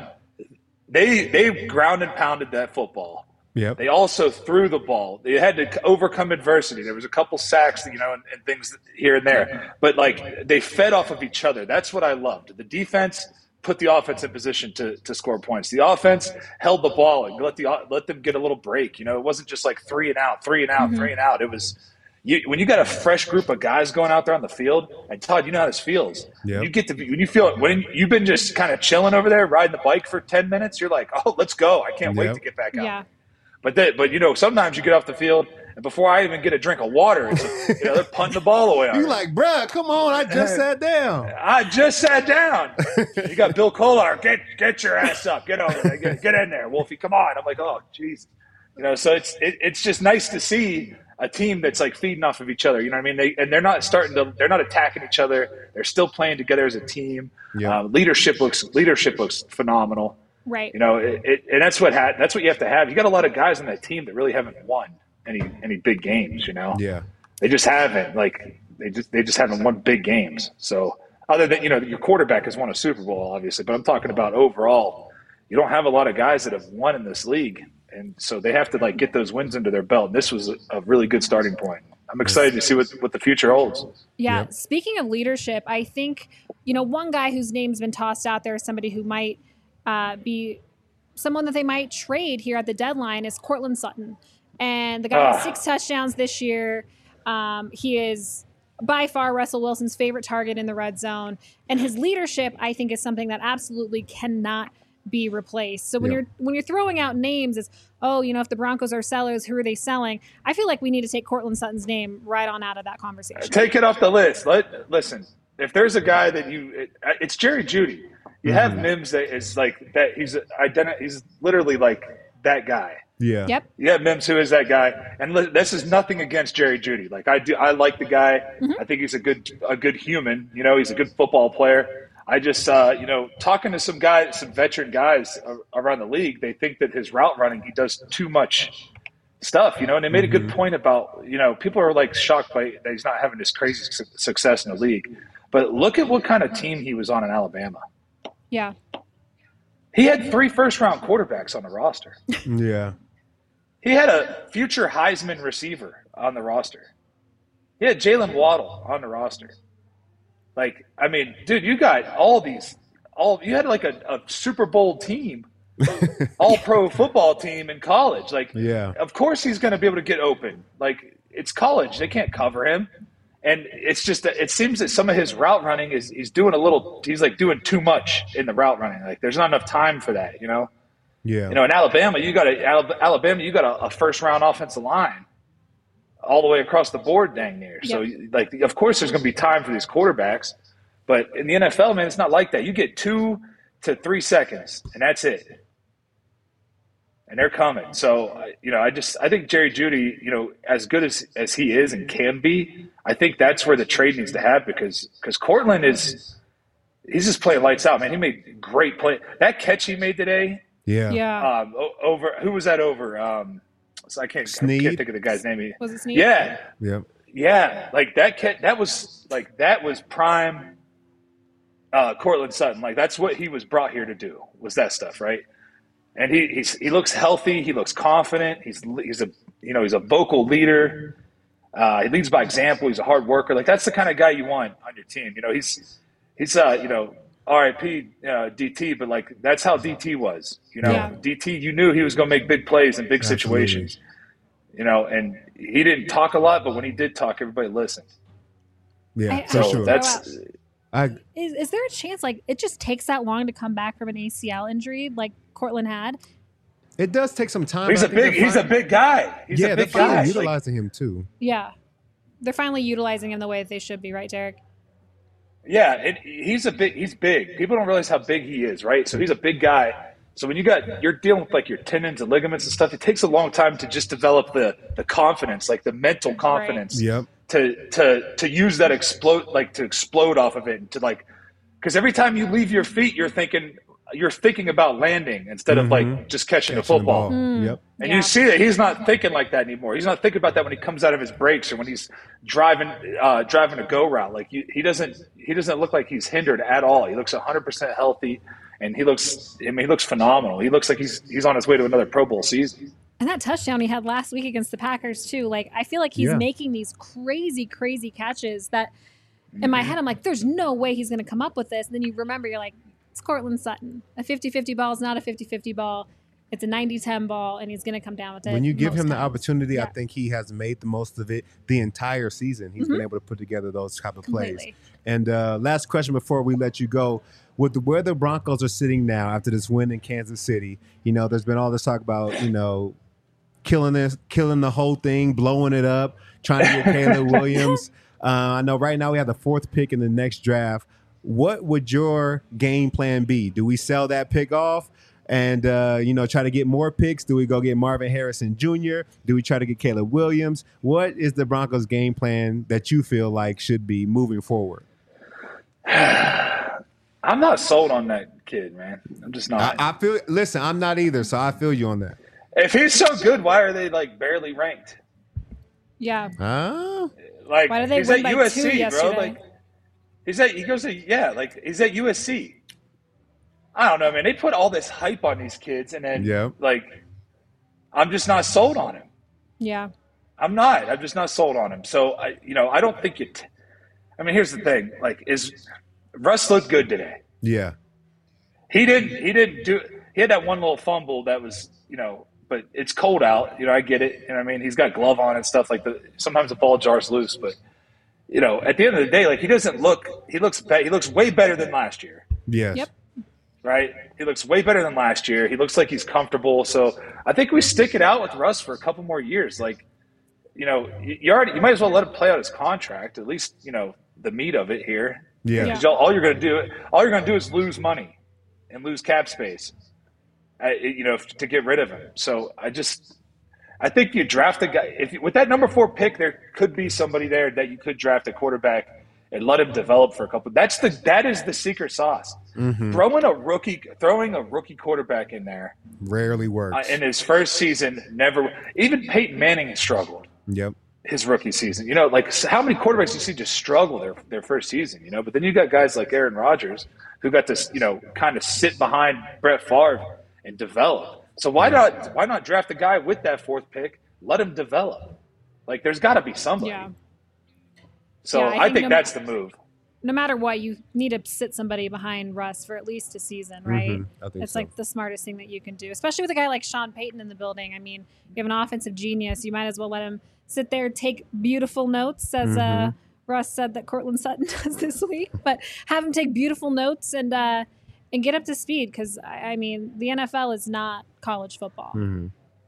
They, they ground and pounded that football. Yep. They also threw the ball. They had to overcome adversity. There was a couple sacks, you know, and, and things here and there. But, like, they fed off of each other. That's what I loved. The defense put the offense in position to to score points. The offense held the ball and let the let them get a little break. You know, it wasn't just like three and out, three and out, mm-hmm. three and out. It was you, when you got a fresh group of guys going out there on the field. And Todd, you know how this feels. Yep. You get to when you feel when you've been just kind of chilling over there, riding the bike for ten minutes. You're like, oh, let's go! I can't yep. wait to get back out. Yeah. But they, but you know, sometimes you get off the field, and before I even get a drink of water, it's, you know, they're punting the ball away. You're like, bruh, come on, I just sat down. I just sat down. You got Bill Kolar, get get your ass up, get over there, get, get in there, Wolfie, come on. I'm like, oh, jeez, you know. So it's it, it's just nice to see a team that's like feeding off of each other. You know what I mean? They and they're not starting to, they're not attacking each other. They're still playing together as a team. Yeah. Uh, leadership looks leadership looks phenomenal. Right. You know, it, it, and that's what ha- that's what you have to have. You got a lot of guys on that team that really haven't won any any big games. You know, yeah, they just haven't. Like they just they just haven't won big games. So other than, you know, your quarterback has won a Super Bowl, obviously, but I'm talking about overall. You don't have a lot of guys that have won in this league, and so they have to like get those wins under their belt. And this was a, a really good starting point. I'm excited to see what what the future holds. Yeah. Yep. Speaking of leadership, I think, you know, one guy whose name's been tossed out there is somebody who might. Uh, be someone that they might trade here at the deadline is Courtland Sutton. And the guy has six touchdowns this year. Um, he is by far Russell Wilson's favorite target in the red zone. And his leadership, I think, is something that absolutely cannot be replaced. So when Yeah. you're when you're throwing out names as, oh, you know, if the Broncos are sellers, who are they selling? I feel like we need to take Courtland Sutton's name right on out of that conversation. Take it off the list. Let listen. If there's a guy that you, it, it's Jerry Jeudy. You have mm-hmm. Mims that is like that. He's identi- He's literally like that guy. Yeah. Yep. You have Mims, who is that guy. And li- this is nothing against Jerry Jeudy. Like I do, I like the guy. Mm-hmm. I think he's a good, a good human. You know, he's a good football player. I just, uh, you know, talking to some guys, some veteran guys around the league, they think that his route running, he does too much stuff. You know, and they made mm-hmm. a good point about, you know, people are like shocked by that he's not having this crazy su- success in the league. But look at what kind of team he was on in Alabama. Yeah. He had three first-round quarterbacks on the roster. Yeah. He had a future Heisman receiver on the roster. He had Jalen Waddle on the roster. Like, I mean, dude, you got all these – all you had like a, a Super Bowl team, all-pro football team in college. Like, yeah. Of course he's going to be able to get open. Like, it's college. They can't cover him. And it's just that it seems that some of his route running is he's doing a little – he's like doing too much in the route running. Like, there's not enough time for that, you know? Yeah. You know, in Alabama, you got a Alabama, you got a, a first-round offensive line all the way across the board, dang near. Yep. So, like, of course, there's going to be time for these quarterbacks, but in the N F L, man, it's not like that. You get two to three seconds, and that's it, and they're coming. So, you know, I just I think Jerry Jeudy, you know, as good as as he is and can be, I think that's where the trade needs to happen because because Cortland is he's just playing lights out, man. He made great play. That catch he made today. Yeah. Yeah. Um, over who was that over? Um, so I can't, I can't think of the guy's name. Was it Snead? Yeah, Yep. yeah. Like that. Cat, that was like that was prime. Uh, Cortland Sutton. Like that's what he was brought here to do. Was that stuff, right? And he he's, he looks healthy. He looks confident. He's he's a you know he's a vocal leader. Uh, he leads by example. He's a hard worker. Like that's the kind of guy you want on your team. You know he's he's uh you know. R I P uh, D T, but like that's how D T was. You know, Yeah. D T, you knew he was going to make big plays in big Absolutely. situations. You know, and he didn't talk a lot, but when he did talk, everybody listened. Yeah, I- for So sure. that's I Is, is there a chance, like, it just takes that long to come back from an A C L injury like Cortland had? it does take some time. he's but a I think big they're he's a fin- big guy. He's yeah, a they're big finally guy. Like, utilizing him too. Yeah. They're finally utilizing him the way that they should be, right, Derek? yeah, it, he's a big. He's big. People don't realize how big he is, right? So he's a big guy. So when you got you're dealing with like your tendons and ligaments and stuff, it takes a long time to just develop the the confidence, like the mental confidence. Yep. to to to use that explode like to explode off of it and to like because every time you leave your feet you're thinking you're thinking about landing instead of like just catching, Catching the the football ball. Mm. Yep. and Yeah. you see that he's not thinking like that anymore. He's not thinking about that when he comes out of his breaks or when he's driving uh driving a go route. Like you, he doesn't he doesn't look like he's hindered at all. He looks one hundred percent healthy and he looks I mean he looks phenomenal. He looks like he's he's on his way to another Pro Bowl season. And that touchdown he had last week against the Packers, too. Like, I feel like he's Yeah. making these crazy, crazy catches that in my head, I'm like, there's no way he's going to come up with this. And then you remember, you're like, it's Cortland Sutton. A fifty-fifty ball is not a fifty-fifty ball. It's a ninety ten ball, and he's going to come down with it. When you give most him the times. opportunity, I Yeah. think he has made the most of it the entire season. He's been able to put together those type of plays. Completely. And uh, last question before we let you go. With the, where the Broncos are sitting now after this win in Kansas City, you know, there's been all this talk about, you know, killing this, killing the whole thing, blowing it up, trying to get Caleb Williams. Uh, I know right now we have the fourth pick in the next draft. What would your game plan be? Do we sell that pick off and, uh, you know, try to get more picks? Do we go get Marvin Harrison Junior? Do we try to get Caleb Williams? What is the Broncos game plan that you feel like should be moving forward? I'm not sold on that kid, man. I'm just not. I, I feel, listen, I'm not either, so I feel you on that. If he's so good, why are they like barely ranked? Yeah. Huh? Like Why did they he's win at by U S two C, bro. yesterday? Like he's at he goes to yeah, like he's at U S C. I don't know, man. They put all this hype on these kids, and then Yeah. like I'm just not sold on him. Yeah. I'm not. I'm just not sold on him. So I, you know, I don't think it. I mean, here's the thing: like, is Russ looked good today? Yeah. He didn't. He didn't do. He had that one little fumble that was, you know. But it's cold out. You know, I get it. You know what I mean? He's got glove on and stuff like the. Sometimes the ball jars loose, but you know, at the end of the day, like he doesn't look. He looks. Be, he looks way better than last year. Yes. Yep. Right? He looks way better than last year. He looks like he's comfortable. So I think we stick it out with Russ for a couple more years. Like, you know, you, you already. You might as well let him play out his contract. At least you know the meat of it here. Yeah. Yeah. 'Cause y'all- all you're going to do, all you're going to do is lose money and lose cap space, uh, you know, to get rid of him. So I just, I think you draft a guy. If you, with that number four pick, there could be somebody there that you could draft a quarterback and let him develop for a couple. That's the that is the secret sauce. Mm-hmm. Throwing a rookie, throwing a rookie quarterback in there Rarely works. uh, in his first season, never. Even Peyton Manning has struggled. Yep. his rookie season. You know, like how many quarterbacks you see just struggle their their first season, you know? But then you got guys like Aaron Rodgers who got to, you know, kind of sit behind Brett Favre and develop. So why not why not draft a guy with that fourth pick, let him develop? Like there's got to be somebody. Yeah. So Yeah, I I think think no that's ma- the move. No matter what, you need to sit somebody behind Russ for at least a season, right? Mhm, I think It's so. like the smartest thing that you can do, especially with a guy like Sean Payton in the building. I mean, you have an offensive genius. You might as well let him sit there, take beautiful notes, as uh, Mhm. Russ said that Cortland Sutton does this week. But have him take beautiful notes and uh, and get up to speed, because I I mean, the N F L is not college football. Mhm.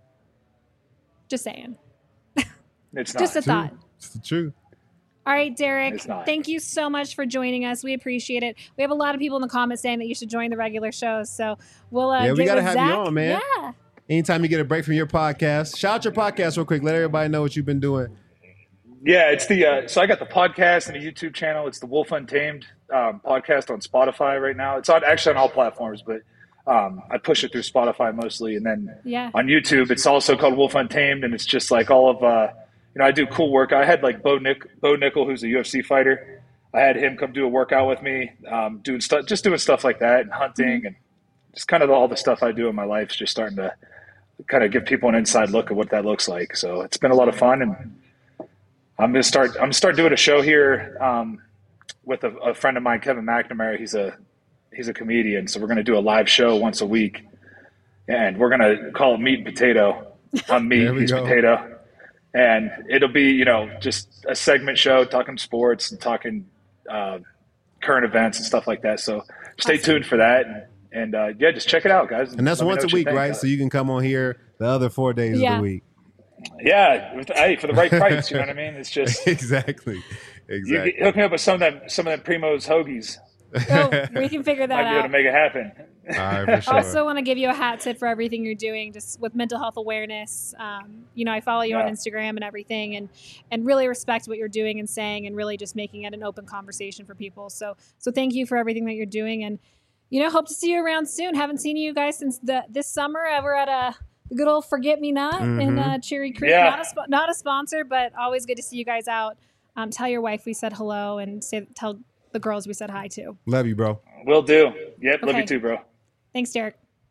Just saying. It's not. Just a thought. It's the truth. All right, Derek, It's not. thank you so much for joining us. We appreciate it. We have a lot of people in the comments saying that you should join the regular shows. So we'll uh, Yeah, we get gotta with have Zach. you on, man. Yeah. Anytime you get a break from your podcast, shout out your podcast real quick. Let everybody know what you've been doing. Yeah, it's the uh, so I got the podcast and a YouTube channel. It's the Wolf Untamed um, podcast on Spotify right now. It's on actually on all platforms, but um, I push it through Spotify mostly, and then Yeah. on YouTube it's also called Wolf Untamed, and it's just like all of uh, you know I do cool work. I had like Bo Nick Bo Nickel, who's a U F C fighter. I had him come do a workout with me, um, doing stuff, just doing stuff like that, and hunting, Mm-hmm. and just kind of all the stuff I do in my life is just starting to kind of give people an inside look at what that looks like. So it's been a lot of fun, and I'm gonna start. I'm gonna start doing a show here um, with a, a friend of mine, Kevin McNamara. He's a he's a comedian, so we're gonna do a live show once a week, and we're gonna call it Meat and Potato. I'm meat, There we he's go. potato, and it'll be you know just a segment show talking sports and talking uh, current events and stuff like that. So stay tuned for that, and, and uh, yeah, just check it out, guys. And that's Let me know once a what you week, think. right? So you can come on here the other four days Yeah. of the week. Yeah, with- hey, for the right price, you know what I mean? It's just exactly. you Exactly. can hook me up with some of them, some of them Primo's hoagies. Oh, we can figure that Might be able to out. make it happen. All right, for sure. Also, want to give you a hat tip for everything you're doing, just with mental health awareness. Um, you know, I follow you on Yeah. Instagram and everything, and and really respect what you're doing and saying, and really just making it an open conversation for people. So, so thank you for everything that you're doing, and you know, hope to see you around soon. Haven't seen you guys since the this summer. Uh, We're at a the good old Forget Me Not in Mhm. uh, Cherry Creek. Yeah. Not a spo- not a sponsor, but always good to see you guys out. Um, tell your wife we said hello, and say tell the girls we said hi to. Love you, bro. Will do. Yep, love Okay. you too, bro. Thanks, Derek.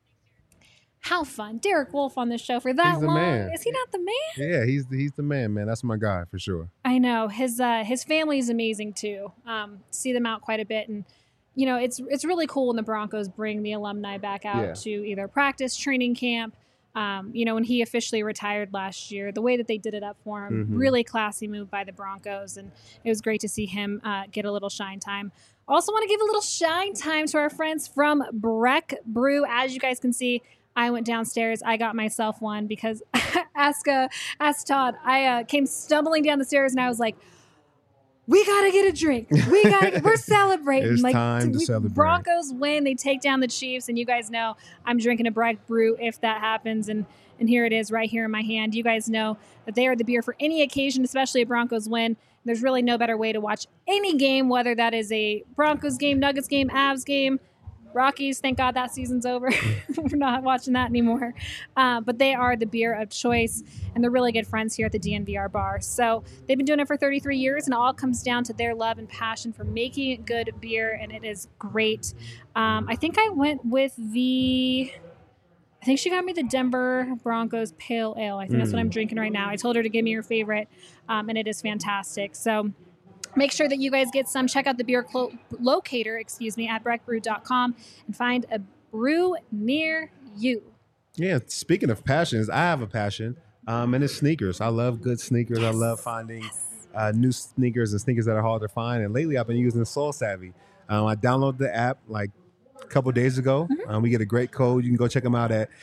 How fun. Derek Wolf on this show for that He's the long. man. Is he not the man? Yeah, he's the, he's the man, man. That's my guy for sure. I know. His uh, his family is amazing too. Um, see them out quite a bit, and you know, it's it's really cool when the Broncos bring the alumni back out Yeah. to either practice, training camp. Um, you know, when he officially retired last year, the way that they did it up for him, Mhm. really classy move by the Broncos, and it was great to see him uh, get a little shine time. Also, want to give a little shine time to our friends from Breck Brew. As you guys can see, I went downstairs. I got myself one because ask uh, ask Todd. I uh, came stumbling down the stairs and I was like, "We gotta get a drink. We gotta. Get, we're celebrating. It's like time to we- celebrate. Broncos win. They take down the Chiefs, and you guys know I'm drinking a Breck Brew if that happens. And and here it is, right here in my hand. You guys know that they are the beer for any occasion, especially a Broncos win. There's really no better way to watch any game, whether that is a Broncos game, Nuggets game, Avs game, Rockies. Thank God that season's over. We're not watching that anymore. Uh, but they are the beer of choice, and they're really good friends here at the D N V R bar. So they've been doing it for thirty-three years, and it all comes down to their love and passion for making good beer, and it is great. Um, I think I went with the... I think she got me the Denver Broncos Pale Ale. I think that's what I'm drinking right now. I told her to give me her favorite, um, and it is fantastic. So make sure that you guys get some. Check out the beer clo- locator, excuse me, at breck brew dot com and find a brew near you. Yeah, speaking of passions, I have a passion, um, and it's sneakers. I love good sneakers. I love finding uh, new sneakers and sneakers that are hard to find. And lately, I've been using Soul Savvy. Um, I downloaded the app like a couple days ago. Um, we get a great code. You can go check them out at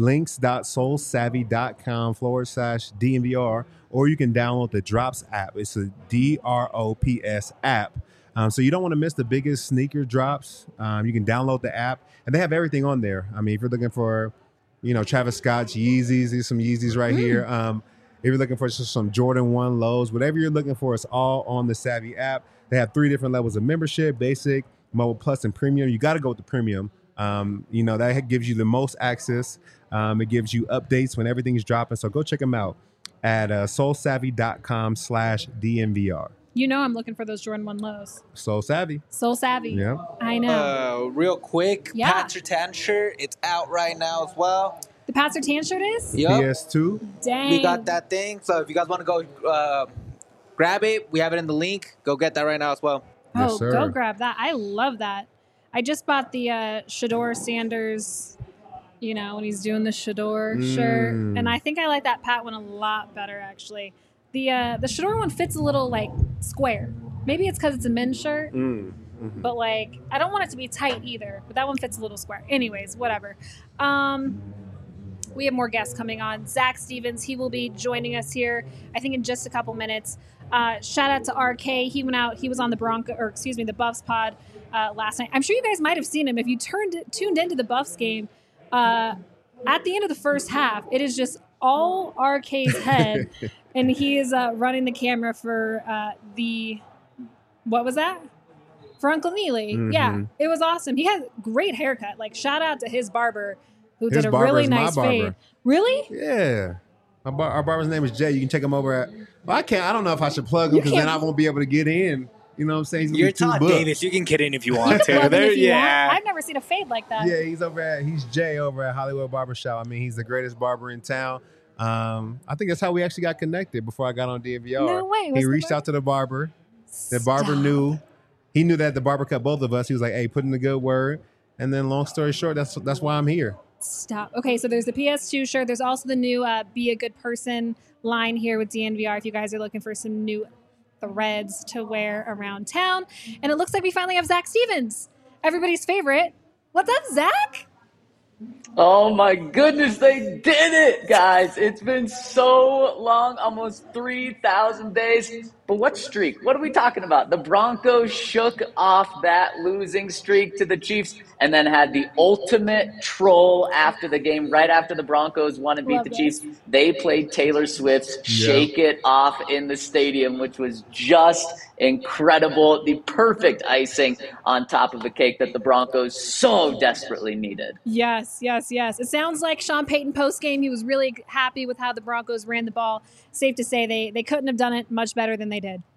links.soulsavvy.com forward slash DNVR, or you can download the Drops app. It's a D R O P S app. Um, so you don't want to miss the biggest sneaker drops. Um, you can download the app, and they have everything on there. I mean, if you're looking for, you know, Travis Scott's Yeezys, there's some Yeezys right here. Um, if you're looking for just some Jordan one lows, whatever you're looking for, it's all on the Savvy app. They have three different levels of membership: basic, mobile plus, and premium. You got to go with the premium. Um, you know, that gives you the most access. Um, it gives you updates when everything's dropping. So go check them out. at uh, soulsavvy.com slash DNVR. You know I'm looking for those Jordan one lows. Soul Savvy. So savvy. Yeah. I know. Uh, real quick, Yeah. Pat Surtain shirt. It's out right now as well. The Pat Surtain shirt is? Yup. P S two. Dang. We got that thing. So if you guys want to go uh, grab it, we have it in the link. Go get that right now as well. Yes, Oh, sir. go grab that. I love that. I just bought the uh, Shador Sanders, you know, when he's doing the Shador shirt. Mm. And I think I like that Pat one a lot better, actually. The uh, the Shador one fits a little, like, square. Maybe it's because it's a men's shirt. Mm. But, like, I don't want it to be tight either. But that one fits a little square. Anyways, whatever. Um, we have more guests coming on. Zach Stevens, he will be joining us here, I think, in just a couple minutes. Uh, shout out to R K. He went out. He was on the Bronco, or excuse me, the Buffs pod uh, last night. I'm sure you guys might have seen him if you turned tuned into the Buffs game. Uh, at the end of the first half, it is just all R K's head, and he is uh, running the camera for uh, the what was that? For Uncle Neely. Mhm. Yeah, it was awesome. He had a great haircut. Like, shout out to his barber who His did a barber really is my nice barber. fade. Really? Yeah. Our, bar- our barber's name is Jay. You can check him over at. Well, I can't. I don't know if I should plug him You because then can't- I won't be able to get in. You know what I'm saying? He's gonna You're be too Todd booked. Davis. You can get in if you want to. Plug him There, if you yeah. want. I've never seen a fade like that. Yeah, he's over at. He's Jay over at Hollywood Barbershop. I mean, he's the greatest barber in town. Um, I think that's how we actually got connected before I got on D V R. No way. He What's the reached bar- out to the barber. The barber Stop. knew. He knew that the barber cut both of us. He was like, "Hey, put in the good word." And then, long story short, that's that's why I'm here. Stop. Okay, so there's the P S two shirt. There's also the new uh, Be a Good Person line here with D N V R if you guys are looking for some new threads to wear around town. And it looks like we finally have Zach Stevens, everybody's favorite. What's up, Zach? Oh my goodness, they did it, guys. It's been so long, almost three thousand days. But what streak? What are we talking about? The Broncos shook off that losing streak to the Chiefs and then had the ultimate troll after the game, right after the Broncos won and beat Love the that. Chiefs. They played Taylor Swift's Shake It Off in the stadium, which was just incredible. The perfect icing on top of the cake that the Broncos so desperately needed. Yes, yes, yes. It sounds like Sean Payton post-game, he was really happy with how the Broncos ran the ball. Safe to say they, they couldn't have done it much better than they did.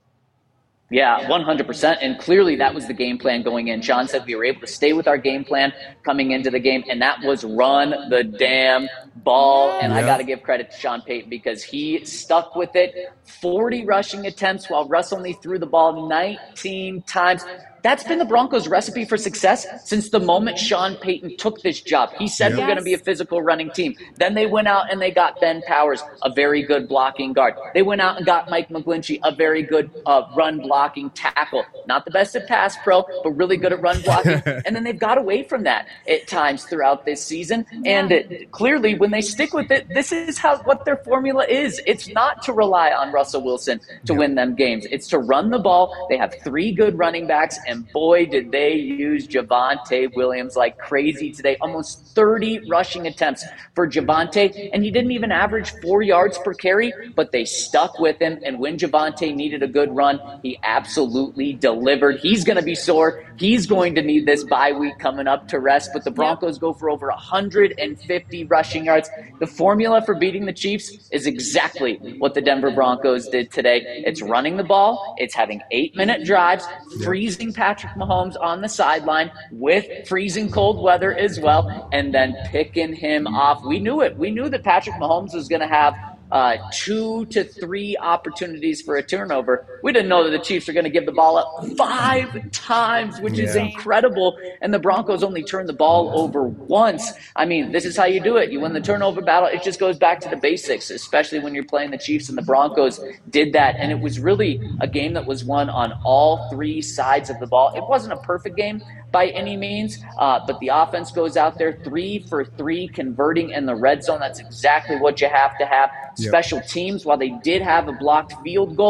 Yeah, one hundred percent. And clearly that was the game plan going in. Sean said we were able to stay with our game plan coming into the game, and that was run the damn ball. And I Yeah. got to give credit to Sean Payton because he stuck with it. forty rushing attempts while Russ only threw the ball nineteen times. That's been the Broncos' recipe for success since the moment Sean Payton took this job. He said Yeah. we're going to be a physical running team. Then they went out and they got Ben Powers, a very good blocking guard. They went out and got Mike McGlinchey, a very good uh, run blocking tackle. Not the best at pass pro, but really good at run blocking. And then they've got away from that at times throughout this season. And it, clearly, when they stick with it, this is how what their formula is. It's not to rely on Russell Wilson to Yeah. win them games. It's to run the ball. They have three good running backs, and boy, did they use Javonte Williams like crazy today. Almost thirty rushing attempts for Javonte, and he didn't even average four yards per carry, but they stuck with him, and when Javonte needed a good run, he absolutely delivered. He's going to be sore. He's going to need this bye week coming up to rest, but the Broncos go for over one hundred fifty rushing yards. The formula for beating the Chiefs is exactly what the Denver Broncos did today. It's running the ball. It's having eight-minute drives, freezing Patrick Mahomes on the sideline with freezing cold weather as well, and then picking him off. We knew it. We knew that Patrick Mahomes was going to have uh, two to three opportunities for a turnover. We didn't know that the Chiefs are going to give the ball up five times, which is Yeah. incredible, and the Broncos only turned the ball over once. I mean, this is how you do it. You win the turnover battle. It just goes back to the basics, especially when you're playing the Chiefs, and the Broncos did that, and it was really a game that was won on all three sides of the ball. It wasn't a perfect game by any means, uh, but the offense goes out there three for three, converting in the red zone. That's exactly what you have to have. Yep. Special teams, while they did have a blocked field goal,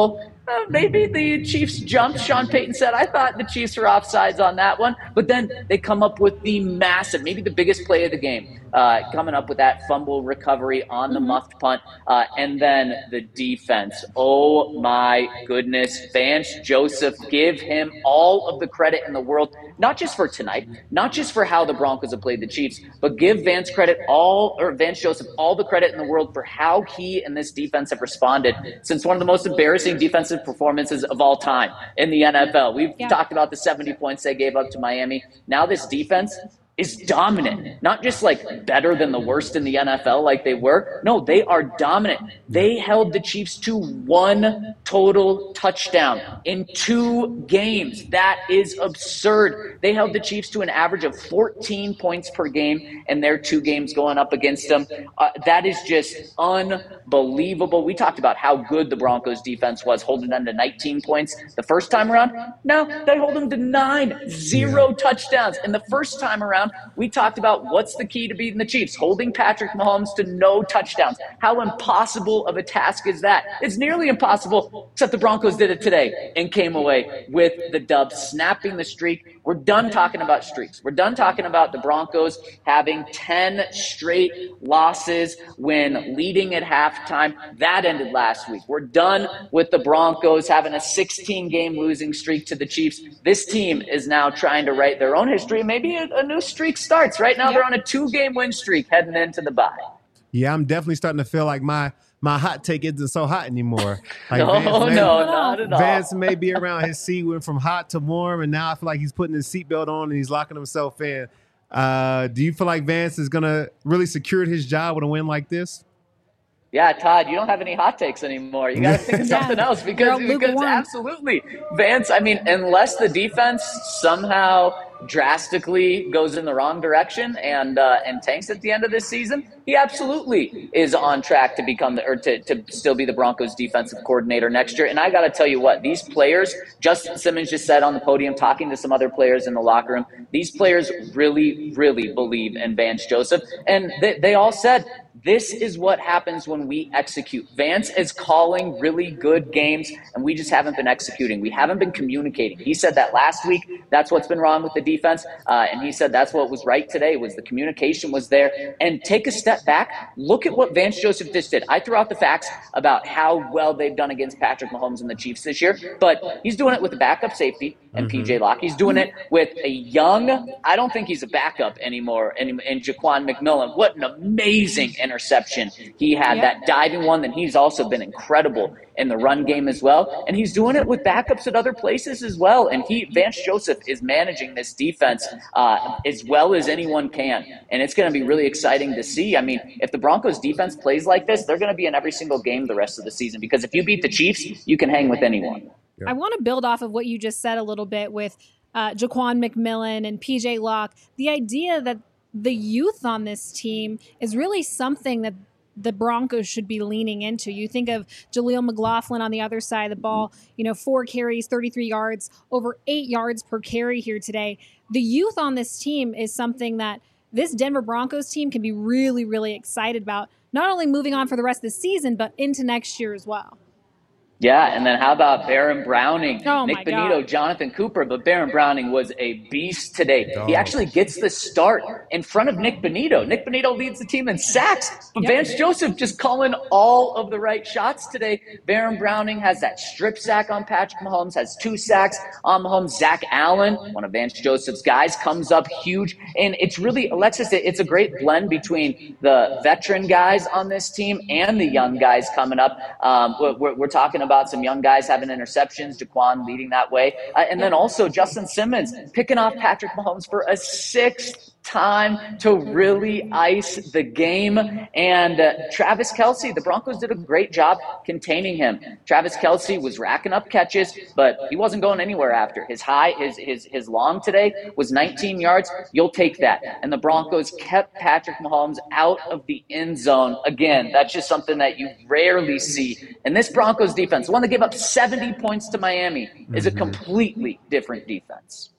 Uh, maybe the Chiefs jumped. Sean Payton said, I thought the Chiefs were offsides on that one. But then they come up with the massive, maybe the biggest play of the game, uh, coming up with that fumble recovery on the mm-hmm. muffed punt. Uh, and then the defense. Oh, my goodness. Vance Joseph, give him all of the credit in the world, not just for tonight, not just for how the Broncos have played the Chiefs, but give Vance credit all, or Vance Joseph all the credit in the world for how he and this defense have responded since one of the most embarrassing defensive performances of all time in the N F L. We've yeah. talked about the seventy points they gave up to Miami. Now this defense is dominant, not just like better than the worst in the N F L like they were. No, they are dominant. They held the Chiefs to one total touchdown in two games. That is absurd. They held the Chiefs to an average of fourteen points per game in their two games going up against them. Uh, that is just unbelievable. We talked about how good the Broncos defense was, holding them to nineteen points the first time around. No, they hold them to nine, zero yeah. touchdowns. And the first time around, we talked about what's the key to beating the Chiefs, holding Patrick Mahomes to no touchdowns. How impossible of a task is that? It's nearly impossible, except the Broncos did it today and came away with the dub, snapping the streak. We're done talking about streaks. We're done talking about the Broncos having ten straight losses when leading at halftime. That ended last week. We're done with the Broncos having a sixteen-game losing streak to the Chiefs. This team is now trying to write their own history. Maybe a, a new streak starts. Right now, yep. they're on a two-game win streak heading into the bye. Yeah, I'm definitely starting to feel like my my hot take isn't so hot anymore. Like no, Vance no, may, not at all. Vance may be around his seat, went from hot to warm, and now I feel like he's putting his seatbelt on and he's locking himself in. Uh, do you feel like Vance is going to really secure his job with a win like this? Yeah, Todd, you don't have any hot takes anymore. You got to think of something else because, because absolutely. Vance, I mean, unless the defense somehow drastically goes in the wrong direction and uh, and tanks at the end of this season, he absolutely is on track to become the, or to, to still be the Broncos defensive coordinator next year. And I got to tell you what, these players, Justin Simmons just said on the podium, talking to some other players in the locker room, these players really, really believe in Vance Joseph. And they, they all said, this is what happens when we execute. Vance is calling really good games, and we just haven't been executing. We haven't been communicating. He said that last week. That's what's been wrong with the defense. Uh, and he said that's what was right today, was the communication was there. And take a step back. Look at what Vance Joseph just did. I threw out the facts about how well they've done against Patrick Mahomes and the Chiefs this year, but he's doing it with a backup safety and mm-hmm. P J Locke. He's doing it with a young, I don't think he's a backup anymore, in, in Jaquan McMillan. What an amazing interception he had, yep. that diving one. Then he's also been incredible in the run game as well. And he's doing it with backups at other places as well. And he, Vance Joseph, is managing this defense uh, as well as anyone can. And it's going to be really exciting to see. I mean, if the Broncos defense plays like this, they're going to be in every single game the rest of the season, because if you beat the Chiefs, you can hang with anyone. I want to build off of what you just said a little bit with uh, Jaquan McMillan and P J Locke. The idea that the youth on this team is really something that the Broncos should be leaning into. You think of Jaleel McLaughlin on the other side of the ball, you know, four carries, thirty-three yards, over eight yards per carry here today. The youth on this team is something that this Denver Broncos team can be really, really excited about, not only moving on for the rest of the season, but into next year as well. Yeah, and then how about Baron Browning, oh Nick Benito, God. Jonathan Cooper, but Baron Browning was a beast today. Oh. He actually gets the start in front of Nick Benito. Nick Benito leads the team in sacks, but yep. Vance Joseph just calling all of the right shots today. Baron Browning has that strip sack on Patrick Mahomes, has two sacks on Mahomes. Zach Allen, one of Vance Joseph's guys, comes up huge. And it's really, Alexis, it's a great blend between the veteran guys on this team and the young guys coming up. Um, we're, we're talking about some young guys having interceptions, Jaquan leading that way. Uh, and then also Justin Simmons picking off Patrick Mahomes for a sixth time to really ice the game. And uh, Travis Kelce, the Broncos did a great job containing him. Travis Kelce was racking up catches, but he wasn't going anywhere after. His high, his his his long today was nineteen yards. You'll take that. And the Broncos kept Patrick Mahomes out of the end zone. Again, that's just something that you rarely see. And this Broncos defense, the one that gave up seventy points to Miami, is a completely different defense.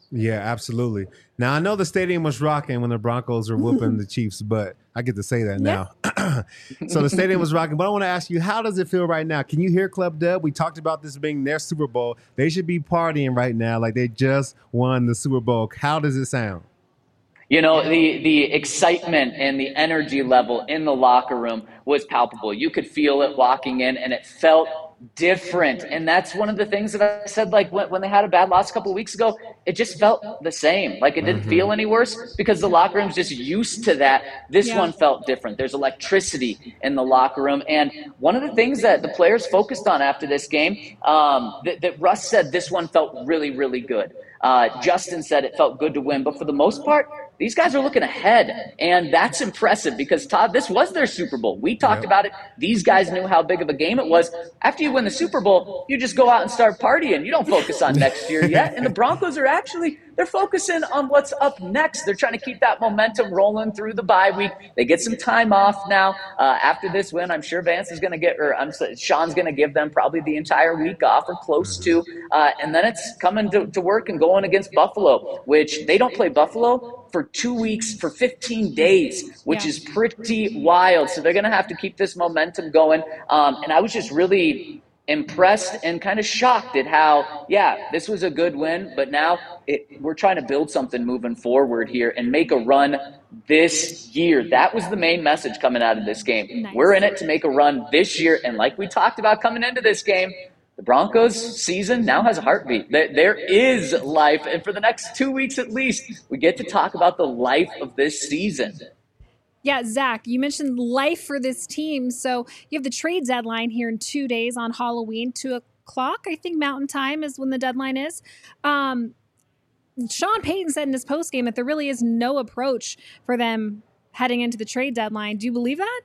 Yeah, absolutely. Now, I know the stadium was rocking when the Broncos were whooping the Chiefs, but I get to say that now. So the stadium was rocking. But I want to ask you, how does it feel right now? Can you hear Club Dub? We talked about this being their Super Bowl. They should be partying right now like they just won the Super Bowl. How does it sound? You know, the, the excitement and the energy level in the locker room was palpable. You could feel it walking in, and it felt different. And that's one of the things that I said, like when, when they had a bad loss a couple of weeks ago, it just felt the same. Like it didn't mm-hmm. feel any worse because the locker room's just used to that. This yeah. one felt different. There's electricity in the locker room. And one of the things that the players focused on after this game, um, that, that Russ said this one felt really, really good. Uh, Justin said it felt good to win. But for the most part, these guys are looking ahead, and that's impressive because, Todd, this was their Super Bowl. We talked yep. about it. These guys knew how big of a game it was. After you win the Super Bowl, you just go out and start partying. You don't focus on next year yet. And the Broncos are actually – they're focusing on what's up next. They're trying to keep that momentum rolling through the bye week. They get some time off now. Uh, after this win, I'm sure Vance is going to get – or I'm Sean's going to give them probably the entire week off or close to. Uh, and then it's coming to, to work and going against Buffalo, which they don't play Buffalo for two weeks, for fifteen days, which yeah. is pretty wild. So they're going to have to keep this momentum going. Um, and I was just really impressed and kind of shocked at how, yeah, this was a good win, but now it, we're trying to build something moving forward here and make a run this year. That was the main message coming out of this game. Nice. We're in it to make a run this year. And like we talked about coming into this game, the Broncos season now has a heartbeat. There is life. And for the next two weeks at least, we get to talk about the life of this season. Yeah, Zach, you mentioned life for this team. So you have the trade deadline here in two days on Halloween, two o'clock, I think Mountain Time is when the deadline is. Um, Sean Payton said in his postgame that there really is no approach for them heading into the trade deadline. Do you believe that?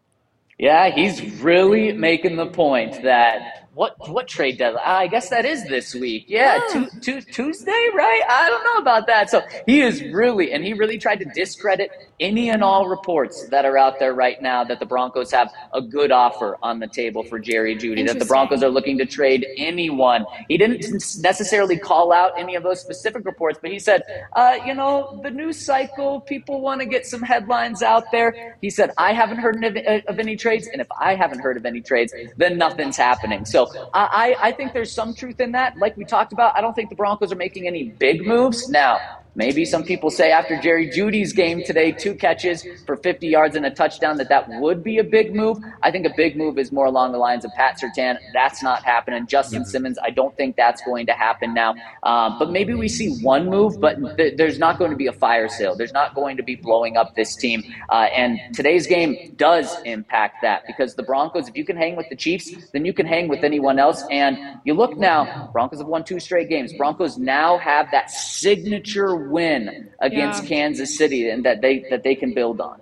Yeah, he's really making the point that what what trade deadline? I guess that is this week. Yeah, oh. tu- tu- Tuesday, right? I don't know about that. So he is really, and he really tried to discredit any and all reports that are out there right now that the Broncos have a good offer on the table for Jerry Jeudy, that the Broncos are looking to trade anyone. He didn't necessarily call out any of those specific reports, but he said, uh, you know, the news cycle, people want to get some headlines out there. He said, I haven't heard of, of any trades, and if I haven't heard of any trades, then nothing's happening. So I, I think there's some truth in that. Like we talked about, I don't think the Broncos are making any big moves. Now, maybe some people say after Jerry Jeudy's game today, two catches for fifty yards and a touchdown, that that would be a big move. I think a big move is more along the lines of Pat Surtain. That's not happening. Justin Simmons, I don't think that's going to happen now. Um, but maybe we see one move, but th- there's not going to be a fire sale. There's not going to be blowing up this team. Uh, and today's game does impact that because the Broncos, if you can hang with the Chiefs, then you can hang with anyone else. And you look now, Broncos have won two straight games. Broncos now have that signature win against yeah. Kansas City and that they that they can build on.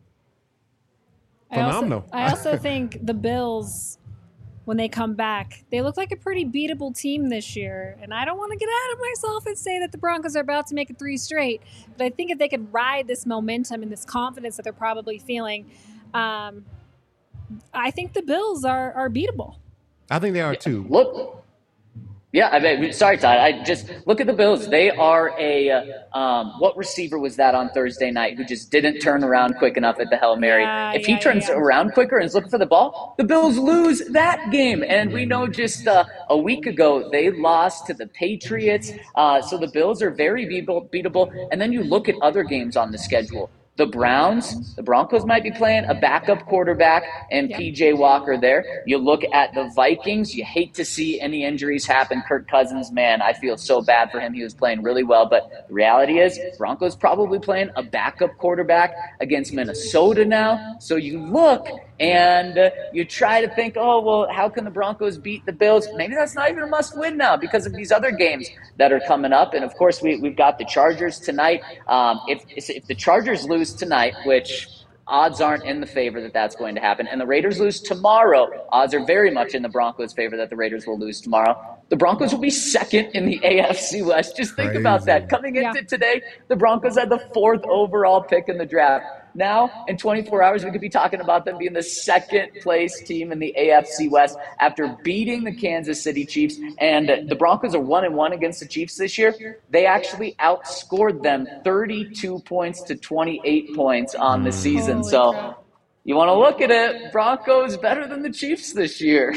Phenomenal. I also, I also think the Bills, when they come back, they look like a pretty beatable team this year. And I don't want to get out of myself and say that the Broncos are about to make it three straight. But I think if they could ride this momentum and this confidence that they're probably feeling, um, I think the Bills are, are beatable. I think they are too. Look. Yeah, I mean, sorry, Todd. I just look at the Bills. They are a uh, um, what receiver was that on Thursday night who just didn't turn around quick enough at the Hail Mary? Yeah, if yeah, he turns yeah. around quicker and is looking for the ball, the Bills lose that game. And we know just uh, a week ago they lost to the Patriots. Uh, so the Bills are very beatable, beatable. And then you look at other games on the schedule. The Browns, the Broncos might be playing a backup quarterback and yep. P J Walker there. You look at the Vikings, you hate to see any injuries happen. Kirk Cousins, man, I feel so bad for him. He was playing really well, but the reality is Broncos probably playing a backup quarterback against Minnesota now. So you look and uh, you try to think, oh, well, how can the Broncos beat the Bills? Maybe that's not even a must-win now because of these other games that are coming up. And, of course, we, we've got the Chargers tonight. Um, if, if the Chargers lose tonight, which odds aren't in the favor that that's going to happen, and the Raiders lose tomorrow, odds are very much in the Broncos' favor that the Raiders will lose tomorrow. The Broncos will be second in the A F C West. Just think Crazy. about that. Coming into yeah. today, the Broncos had the fourth overall pick in the draft. now in twenty-four hours, we could be talking about them being the second place team in the A F C West after beating the Kansas City Chiefs. And the Broncos are one and one against the Chiefs this year. They actually outscored them thirty-two points to twenty-eight points on the season. Holy so crap. you want to look at it, Broncos better than the Chiefs this year.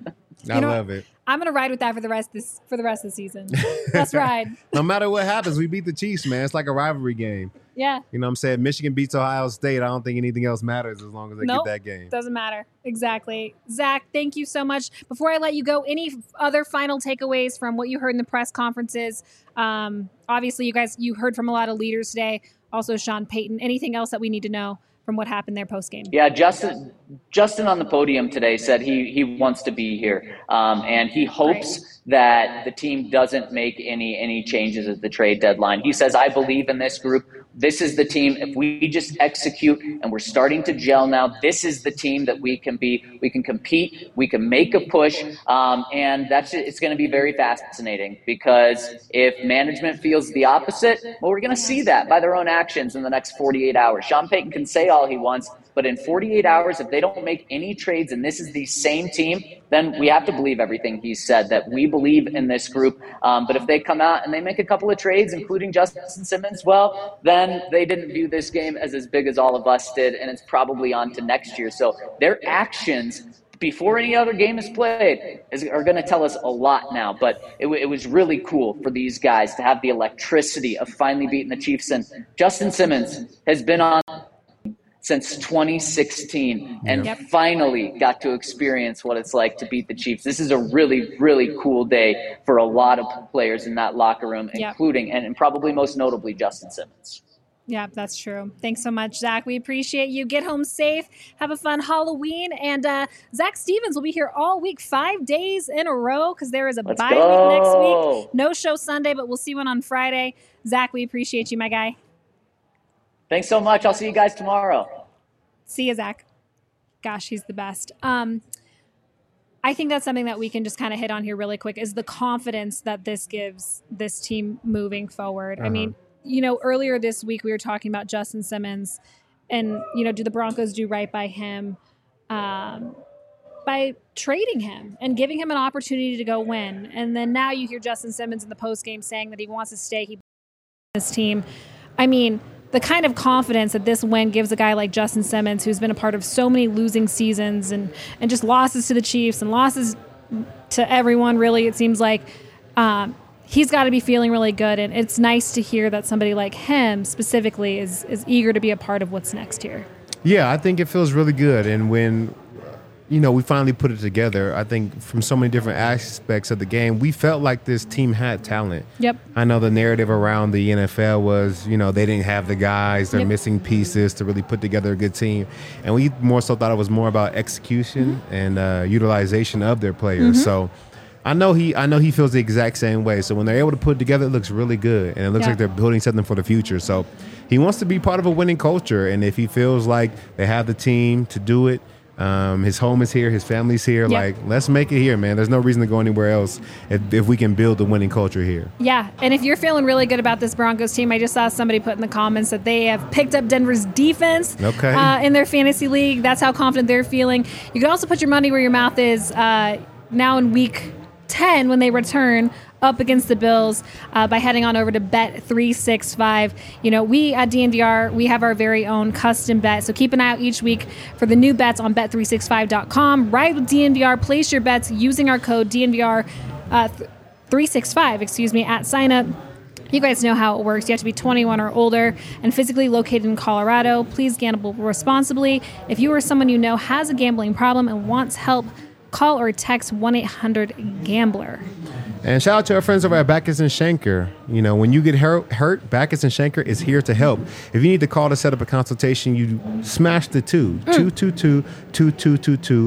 I You know, love it. I'm gonna ride with that for the rest of this for the rest of the season. Let's ride. No matter what happens, we beat the Chiefs, man. It's like a rivalry game. Yeah. You know what I'm saying? Michigan beats Ohio State. I don't think anything else matters as long as they Nope. get that game. Doesn't matter. Exactly. Zach, thank you so much. Before I let you go, any other final takeaways from what you heard in the press conferences? Um, obviously, you guys, you heard from a lot of leaders today. Also, Sean Payton. Anything else that we need to know from what happened there post game? Yeah, Justin Justin on the podium today said he he wants to be here, um, and he hopes Right. that the team doesn't make any any changes at the trade deadline. He says, "I believe in this group. This is the team. If we just execute and we're starting to gel now, this is the team that we can be. We can compete. We can make a push, um, and that's it's going to be very fascinating because if management feels the opposite, well, we're going to see that by their own actions in the next forty-eight hours. Sean Payton can say all he wants, but in forty-eight hours, if they don't make any trades and this is the same team, then we have to believe everything he said, that we believe in this group. Um, but if they come out and they make a couple of trades, including Justin Simmons, well, then they didn't view this game as as big as all of us did, and it's probably on to next year. So their actions before any other game is played is, are going to tell us a lot now. But it, it was really cool for these guys to have the electricity of finally beating the Chiefs. And Justin Simmons has been on since twenty sixteen and Yep. finally got to experience what it's like to beat the Chiefs. This is a really, really cool day for a lot of players in that locker room, Yep. including and, and probably most notably Justin Simmons. Yeah, that's true. Thanks so much, Zach. We appreciate you. Get home safe. Have a fun Halloween. And uh, Zach Stevens will be here all week, five days in a row, because there is a Let's bye week next go. week. No show Sunday, but we'll see one on Friday. Zach, we appreciate you, my guy. Thanks so much. I'll see you guys tomorrow. See you, Zach. Gosh, he's the best. Um, I think that's something that we can just kind of hit on here really quick is the confidence that this gives this team moving forward. I Uh-huh. mean, you know, earlier this week we were talking about Justin Simmons and, you know, do the Broncos do right by him um, by trading him and giving him an opportunity to go win? And then now you hear Justin Simmons in the postgame saying that he wants to stay. He this team. I mean, the kind of confidence that this win gives a guy like Justin Simmons, who's been a part of so many losing seasons and, and just losses to the Chiefs and losses to everyone, really, it seems like um, he's got to be feeling really good. And it's nice to hear that somebody like him specifically is, is eager to be a part of what's next here. Yeah, I think it feels really good. And when, you know, we finally put it together, I think from so many different aspects of the game, we felt like this team had talent. Yep. I know the narrative around the N F L was, you know, they didn't have the guys, they're Yep. missing pieces to really put together a good team. And we more so thought it was more about execution Mm-hmm. and uh, utilization of their players. Mm-hmm. So I know he I know he feels the exact same way. So when they're able to put it together, it looks really good. And it looks Yeah. like they're building something for the future. So he wants to be part of a winning culture. And if he feels like they have the team to do it, Um, his home is here. His family's here. Yeah. Like, let's make it here, man. There's no reason to go anywhere else if, if we can build the winning culture here. Yeah, and if you're feeling really good about this Broncos team, I just saw somebody put in the comments that they have picked up Denver's defense Okay. uh, in their fantasy league. That's how confident they're feeling. You can also put your money where your mouth is uh, now in week ten when they return up against the Bills uh, by heading on over to Bet three sixty-five. You know, we at D N V R, we have our very own custom bet. So keep an eye out each week for the new bets on bet three sixty-five dot com. Ride with D N V R. Place your bets using our code D N V R uh, three sixty-five, excuse me, at sign up. You guys know how it works. You have to be twenty-one or older and physically located in Colorado. Please gamble responsibly. If you or someone you know has a gambling problem and wants help, call or text one eight hundred gambler. And shout out to our friends over at Backus and Schenker. You know, when you get hurt, hurt, Backus and Schenker is here to help. If you need to call to set up a consultation, you smash the two, two two two two two two two.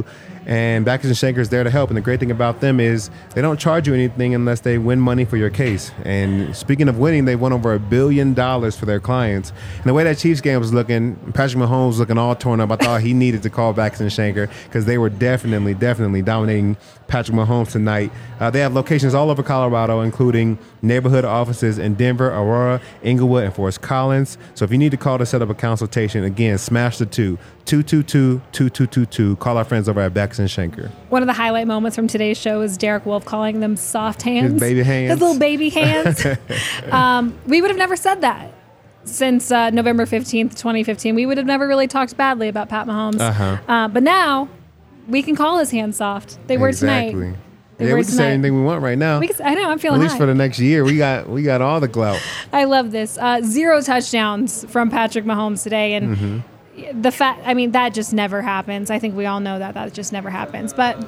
And Bachus and Schenker is there to help. And the great thing about them is they don't charge you anything unless they win money for your case. And speaking of winning, they won over a billion dollars for their clients. And the way that Chiefs game was looking, Patrick Mahomes was looking all torn up. I thought he needed to call Bachus and Schenker because they were definitely, definitely dominating Patrick Mahomes tonight. Uh, they have locations all over Colorado, including neighborhood offices in Denver, Aurora, Inglewood, and Forest Collins. So if you need to call to set up a consultation, again, smash the two, two two two, two two two two. Call our friends over at Bachus and Schenker. One of the highlight moments from today's show is Derek Wolf calling them soft hands. His baby hands. His little baby hands. um, we would have never said that since uh, November fifteenth, twenty fifteen. We would have never really talked badly about Pat Mahomes. Uh-huh. Uh, but now we can call his hands soft. They were exactly. tonight. They yeah, were we can tonight. say anything we want right now. We can, I know, I'm feeling At least high. for the next year, we got we got all the clout. I love this. Uh, zero touchdowns from Patrick Mahomes today. And Mm-hmm. the fact, I mean, that just never happens. I think we all know that. That just never happens. But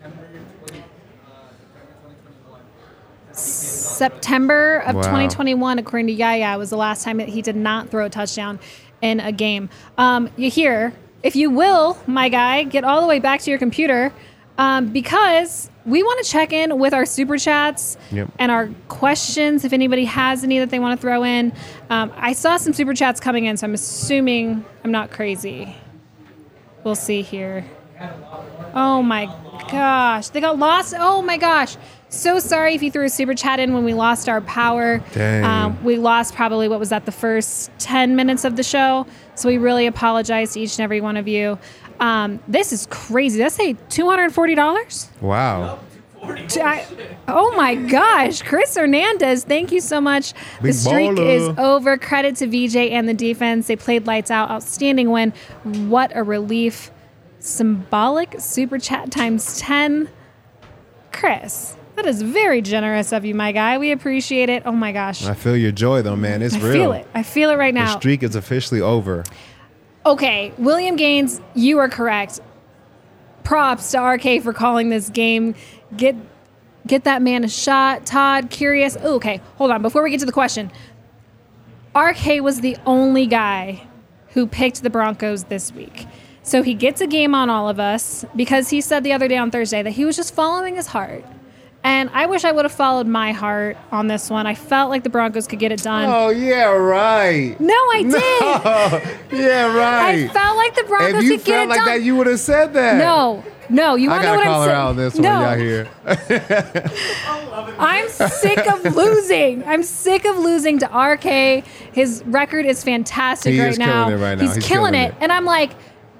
September of Wow. twenty twenty-one, according to Yaya, was the last time that he did not throw a touchdown in a game. Um, you hear, if you will, my guy, get all the way back to your computer um, because we want to check in with our super chats Yep. and our questions. If anybody has any that they want to throw in, um, I saw some super chats coming in, so I'm assuming I'm not crazy. We'll see here. Oh my gosh, they got lost. Oh my gosh. So sorry if you threw a super chat in when we lost our power. Dang. Um, we lost probably, what was that, the first ten minutes of the show. So we really apologize to each and every one of you. Um, this is crazy. Did I say two hundred forty dollars? Wow. I, oh my gosh, Chris Hernandez, thank you so much. The Big streak baller. is over. Credit to V J and the defense. They played lights out. Outstanding win. What a relief. Symbolic super chat times ten. Chris, that is very generous of you, my guy. We appreciate it. Oh my gosh. I feel your joy, though, man. It's I real. feel it. I feel it right The now. streak is officially over. Okay, William Gaines, you are correct. Props to R K for calling this game. Get get that man a shot. Todd, curious. Ooh, okay, hold on. Before we get to the question, R K was the only guy who picked the Broncos this week. So he gets a game on all of us because he said the other day on Thursday that he was just following his heart. And I wish I would have followed my heart on this one. I felt like the Broncos could get it done. Oh, yeah, right. No, I did. Yeah, right. I felt like the Broncos If you could get felt it like done. that, you would have said that. No, no, you I want to know gotta what call I'm her saying? out on this one, no. y'all here. I'm sick of losing. I'm sick of losing to R K. His record is fantastic He right is now. killing it right now. He's, He's killing, killing it. it. And I'm like,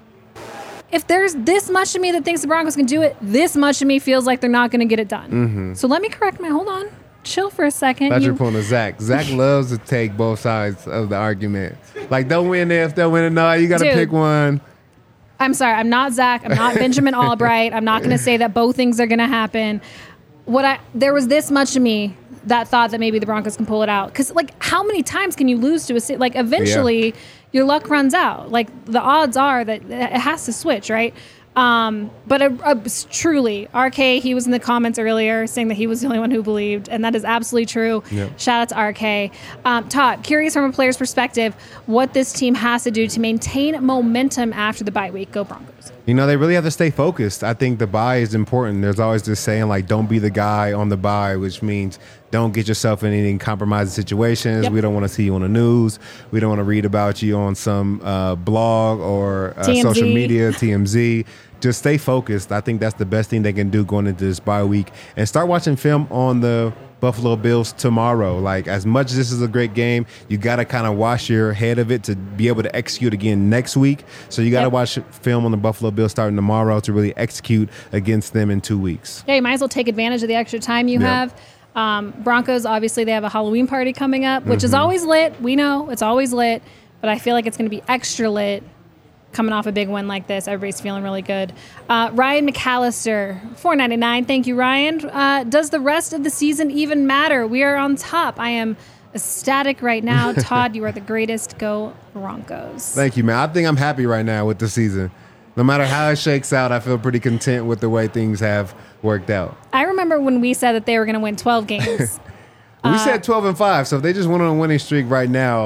if there's this much of me that thinks the Broncos can do it, this much of me feels like they're not going to get it done. Mm-hmm. So let me correct my, hold on. Chill for a second. Thought you You- were pulling a Zach. Zach loves to take both sides of the argument. Like, don't win this, don't win it. No, you got to Dude. pick one. I'm sorry. I'm not Zach. I'm not Benjamin Albright. I'm not going to say that both things are going to happen. What I there was this much of me that thought that maybe the Broncos can pull it out. Because, like, how many times can you lose to a city? Like, eventually, your luck runs out. Like, the odds are that it has to switch, right? Um, but uh, uh, truly, R K, he was in the comments earlier saying that he was the only one who believed, and that is absolutely true. Yep. Shout out to R K. Um, Todd, curious from a player's perspective, what this team has to do to maintain momentum after the bye week. Go Broncos. You know, they really have to stay focused. I think the bye is important. There's always this saying, like, don't be the guy on the bye, which means don't get yourself in any compromising situations. Yep. We don't want to see you on the news. We don't want to read about you on some uh, blog or uh, T M Z. social media, T M Z. Just stay focused. I think that's the best thing they can do going into this bye week. And start watching film on the Buffalo Bills tomorrow. Like, as much as this is a great game, you got to kind of wash your head of it to be able to execute again next week. So you got to Yep. watch film on the Buffalo Bills starting tomorrow to really execute against them in two weeks. Yeah, you might as well take advantage of the extra time you Yeah. have. Um, Broncos, obviously, they have a Halloween party coming up, which Mm-hmm. is always lit. We know it's always lit, but I feel like it's going to be extra lit coming off a big win like this. Everybody's feeling really good. Uh, Ryan McAllister, four ninety-nine. Thank you, Ryan. Uh, does the rest of the season even matter? We are on top. I am ecstatic right now. Todd, you are the greatest. Go Broncos. Thank you, man. I think I'm happy right now with the season. No matter how it shakes out, I feel pretty content with the way things have worked out. I remember when we said that they were going to win twelve games. We said twelve and five, so if they just went on a winning streak right now,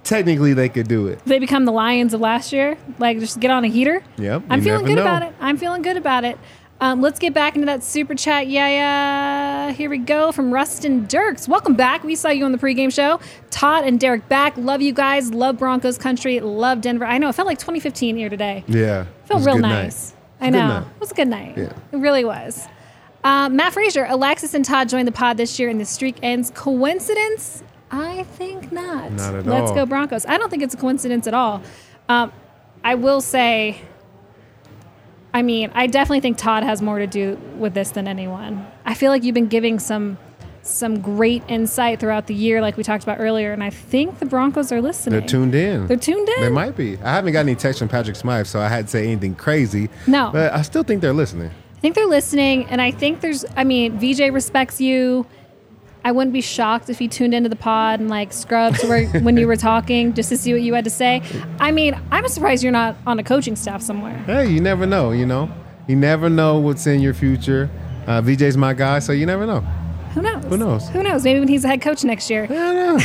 technically they could do it. They become the Lions of last year. Like, just get on a heater. Yep. I'm you feeling never good know. about it. I'm feeling good about it. Um, let's get back into that super chat. Yeah, yeah. Here we go from Rustin Dirks. Welcome back. We saw you on the pregame show. Todd and Derek back. Love you guys. Love Broncos country. Love Denver. I know. It felt like twenty fifteen here today. Yeah. It felt was a real good nice. night. I Good know. night. It was a good night. Yeah. It really was. Uh, Matt Frazier, Alexis and Todd joined the pod this year and the streak ends. Coincidence? I think not. Not at Let's all. go Broncos. I don't think it's a coincidence at all. Um, I will say, I mean, I definitely think Todd has more to do with this than anyone. I feel like you've been giving some some great insight throughout the year, like we talked about earlier, and I think the Broncos are listening. They're tuned in. They're tuned in. They might be. I haven't got any text from Patrick Smythe, so I hadn't say anything crazy. No. But I still think they're listening. I think they're listening, and I think there's, I mean, V J respects you. I wouldn't be shocked if he tuned into the pod and like scrubbed where, when you were talking just to see what you had to say. I mean, I'm surprised you're not on a coaching staff somewhere. Hey, you never know, you know? You never know what's in your future. Uh, V J's my guy, so you never know. Who knows? Who knows? Who knows? Maybe when he's the head coach next year. I don't know.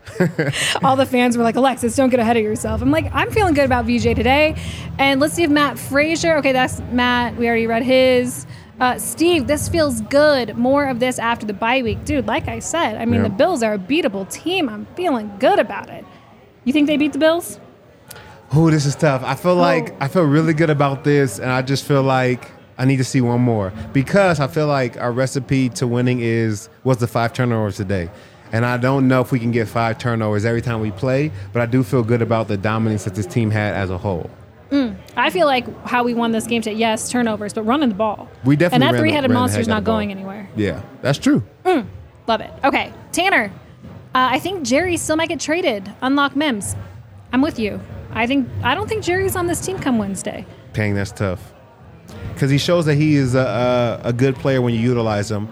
All the fans were like, Alexis, don't get ahead of yourself. I'm like, I'm feeling good about V J today. And let's see if Matt Frazier, okay, that's Matt. We already read his. Uh, Steve, this feels good. More of this after the bye week. Dude, like I said, I mean, Yeah. the Bills are a beatable team. I'm feeling good about it. You think they beat the Bills? Ooh, this is tough. I feel like I feel really good about this, and I just feel like I need to see one more because I feel like our recipe to winning is was the five turnovers today. And I don't know if we can get five turnovers every time we play, but I do feel good about the dominance that this team had as a whole. Mm. I feel like how we won this game today, yes, turnovers, but running the ball. We definitely And that ran the- three-headed ran the monster's heck out not of the ball. going anywhere. Yeah, that's true. Mm. Love it. Okay, Tanner, uh, I think Jerry still might get traded. Unlock Mims. I'm with you. I think I don't think Jerry's on this team come Wednesday. Dang, that's tough. Because he shows that he is a, a, a good player when you utilize him.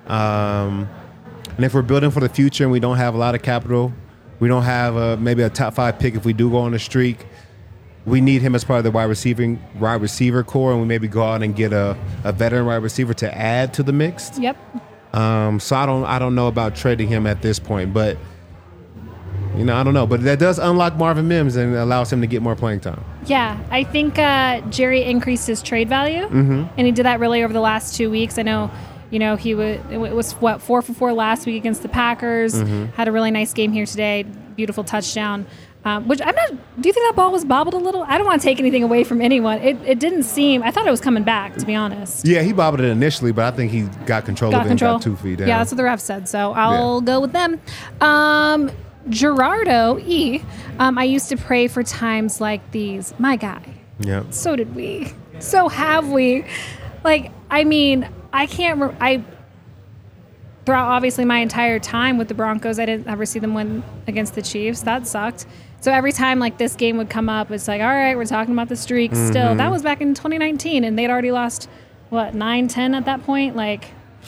Um, and if we're building for the future and we don't have a lot of capital, we don't have a, maybe a top five pick if we do go on a streak, we need him as part of the wide receiving wide receiver core, and we maybe go out and get a, a veteran wide receiver to add to the mix. Yep. Um, so I don't I don't know about trading him at this point, but you know I don't know. But that does unlock Marvin Mims and allows him to get more playing time. Yeah, I think uh, Jerry increased his trade value, Mm-hmm. and he did that really over the last two weeks. I know, you know, he would it was what four for four last week against the Packers. Mm-hmm. Had a really nice game here today. Beautiful touchdown. Um, which I'm not. Do you think that ball was bobbled a little? I don't want to take anything away from anyone. It it didn't seem. I thought it was coming back. To be honest. Yeah, he bobbled it initially, but I think he got control Got of it control. and got two feet down. Yeah, that's what the ref said. So I'll go with them. Um, Gerardo E. Um, I used to pray for times like these. My guy. Yeah. So did we. So have we. Like, I mean, I can't. Re- I throughout obviously my entire time with the Broncos, I didn't ever see them win against the Chiefs. That sucked. So every time like this game would come up, it's like, all right, we're talking about the streaks still. That was back in twenty nineteen, and they'd already lost what nine, ten at that point, like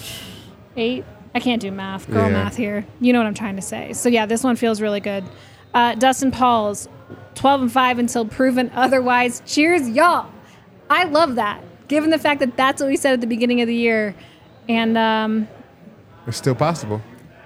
eight. I can't do math, girl Yeah. math here. You know what I'm trying to say. So yeah, this one feels really good. Uh, Dustin Pauls, twelve and five until proven otherwise. Cheers, y'all. I love that, given the fact that that's what we said at the beginning of the year, and um, It's still possible.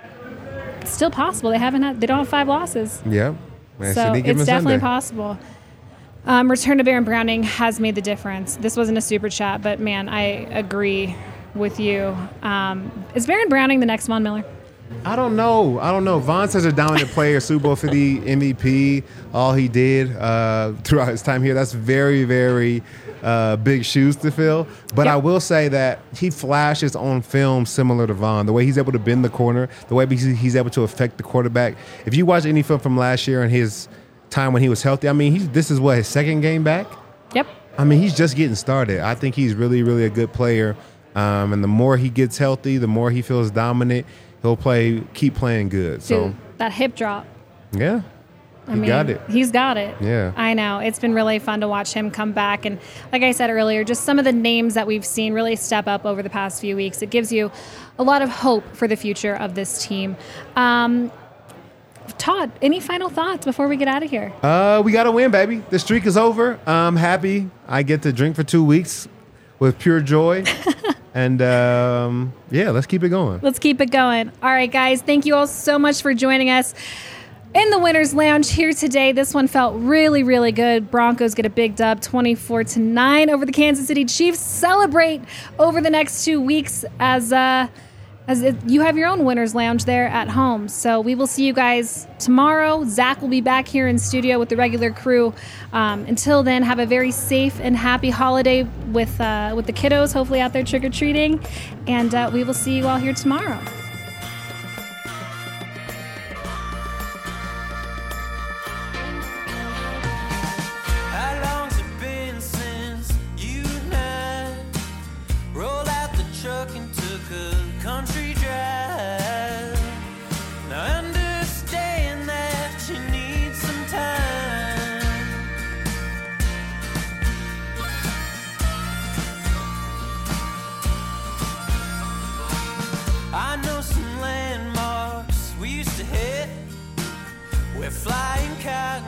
it's still possible. They haven't had. They don't have five losses. Yeah. Man, So Sydney, give it's him definitely Sunday. possible. Um, return to Baron Browning has made the difference. This wasn't a super chat, but man, I agree with you. Um, is Baron Browning the next Von Miller? I don't know. I don't know. Von's such a dominant player, Super Bowl fifty M V P, all he did uh, throughout his time here. That's very, very uh, big shoes to fill. But Yep. I will say that he flashes on film similar to Von. The way he's able to bend the corner, the way he's he's able to affect the quarterback. If you watch any film from last year and his time when he was healthy, I mean, he's, this is what, his second game back? Yep. I mean, he's just getting started. I think he's really, really a good player. Um, and the more he gets healthy, the more he feels dominant, he'll play, keep playing good. So, Dude, that hip drop. yeah, I he mean, got it. He's got it. Yeah. I know. It's been really fun to watch him come back. And like I said earlier, just some of the names that we've seen really step up over the past few weeks. It gives you a lot of hope for the future of this team. Um, Todd, any final thoughts before we get out of here? Uh, we got to win, baby. The streak is over. I'm happy. I get to drink for two weeks with pure joy. And um, yeah, let's keep it going. Let's keep it going. All right, guys. Thank you all so much for joining us. In the Winners Lounge here today, this one felt really, really good. Broncos get a big dub, twenty-four to nine over the Kansas City Chiefs. Celebrate over the next two weeks as uh, as it, you have your own Winners Lounge there at home. So we will see you guys tomorrow. Zach will be back here in studio with the regular crew. Um, until then, have a very safe and happy holiday with uh, with the kiddos, hopefully out there trick-or-treating. And uh, we will see you all here tomorrow. Flying cows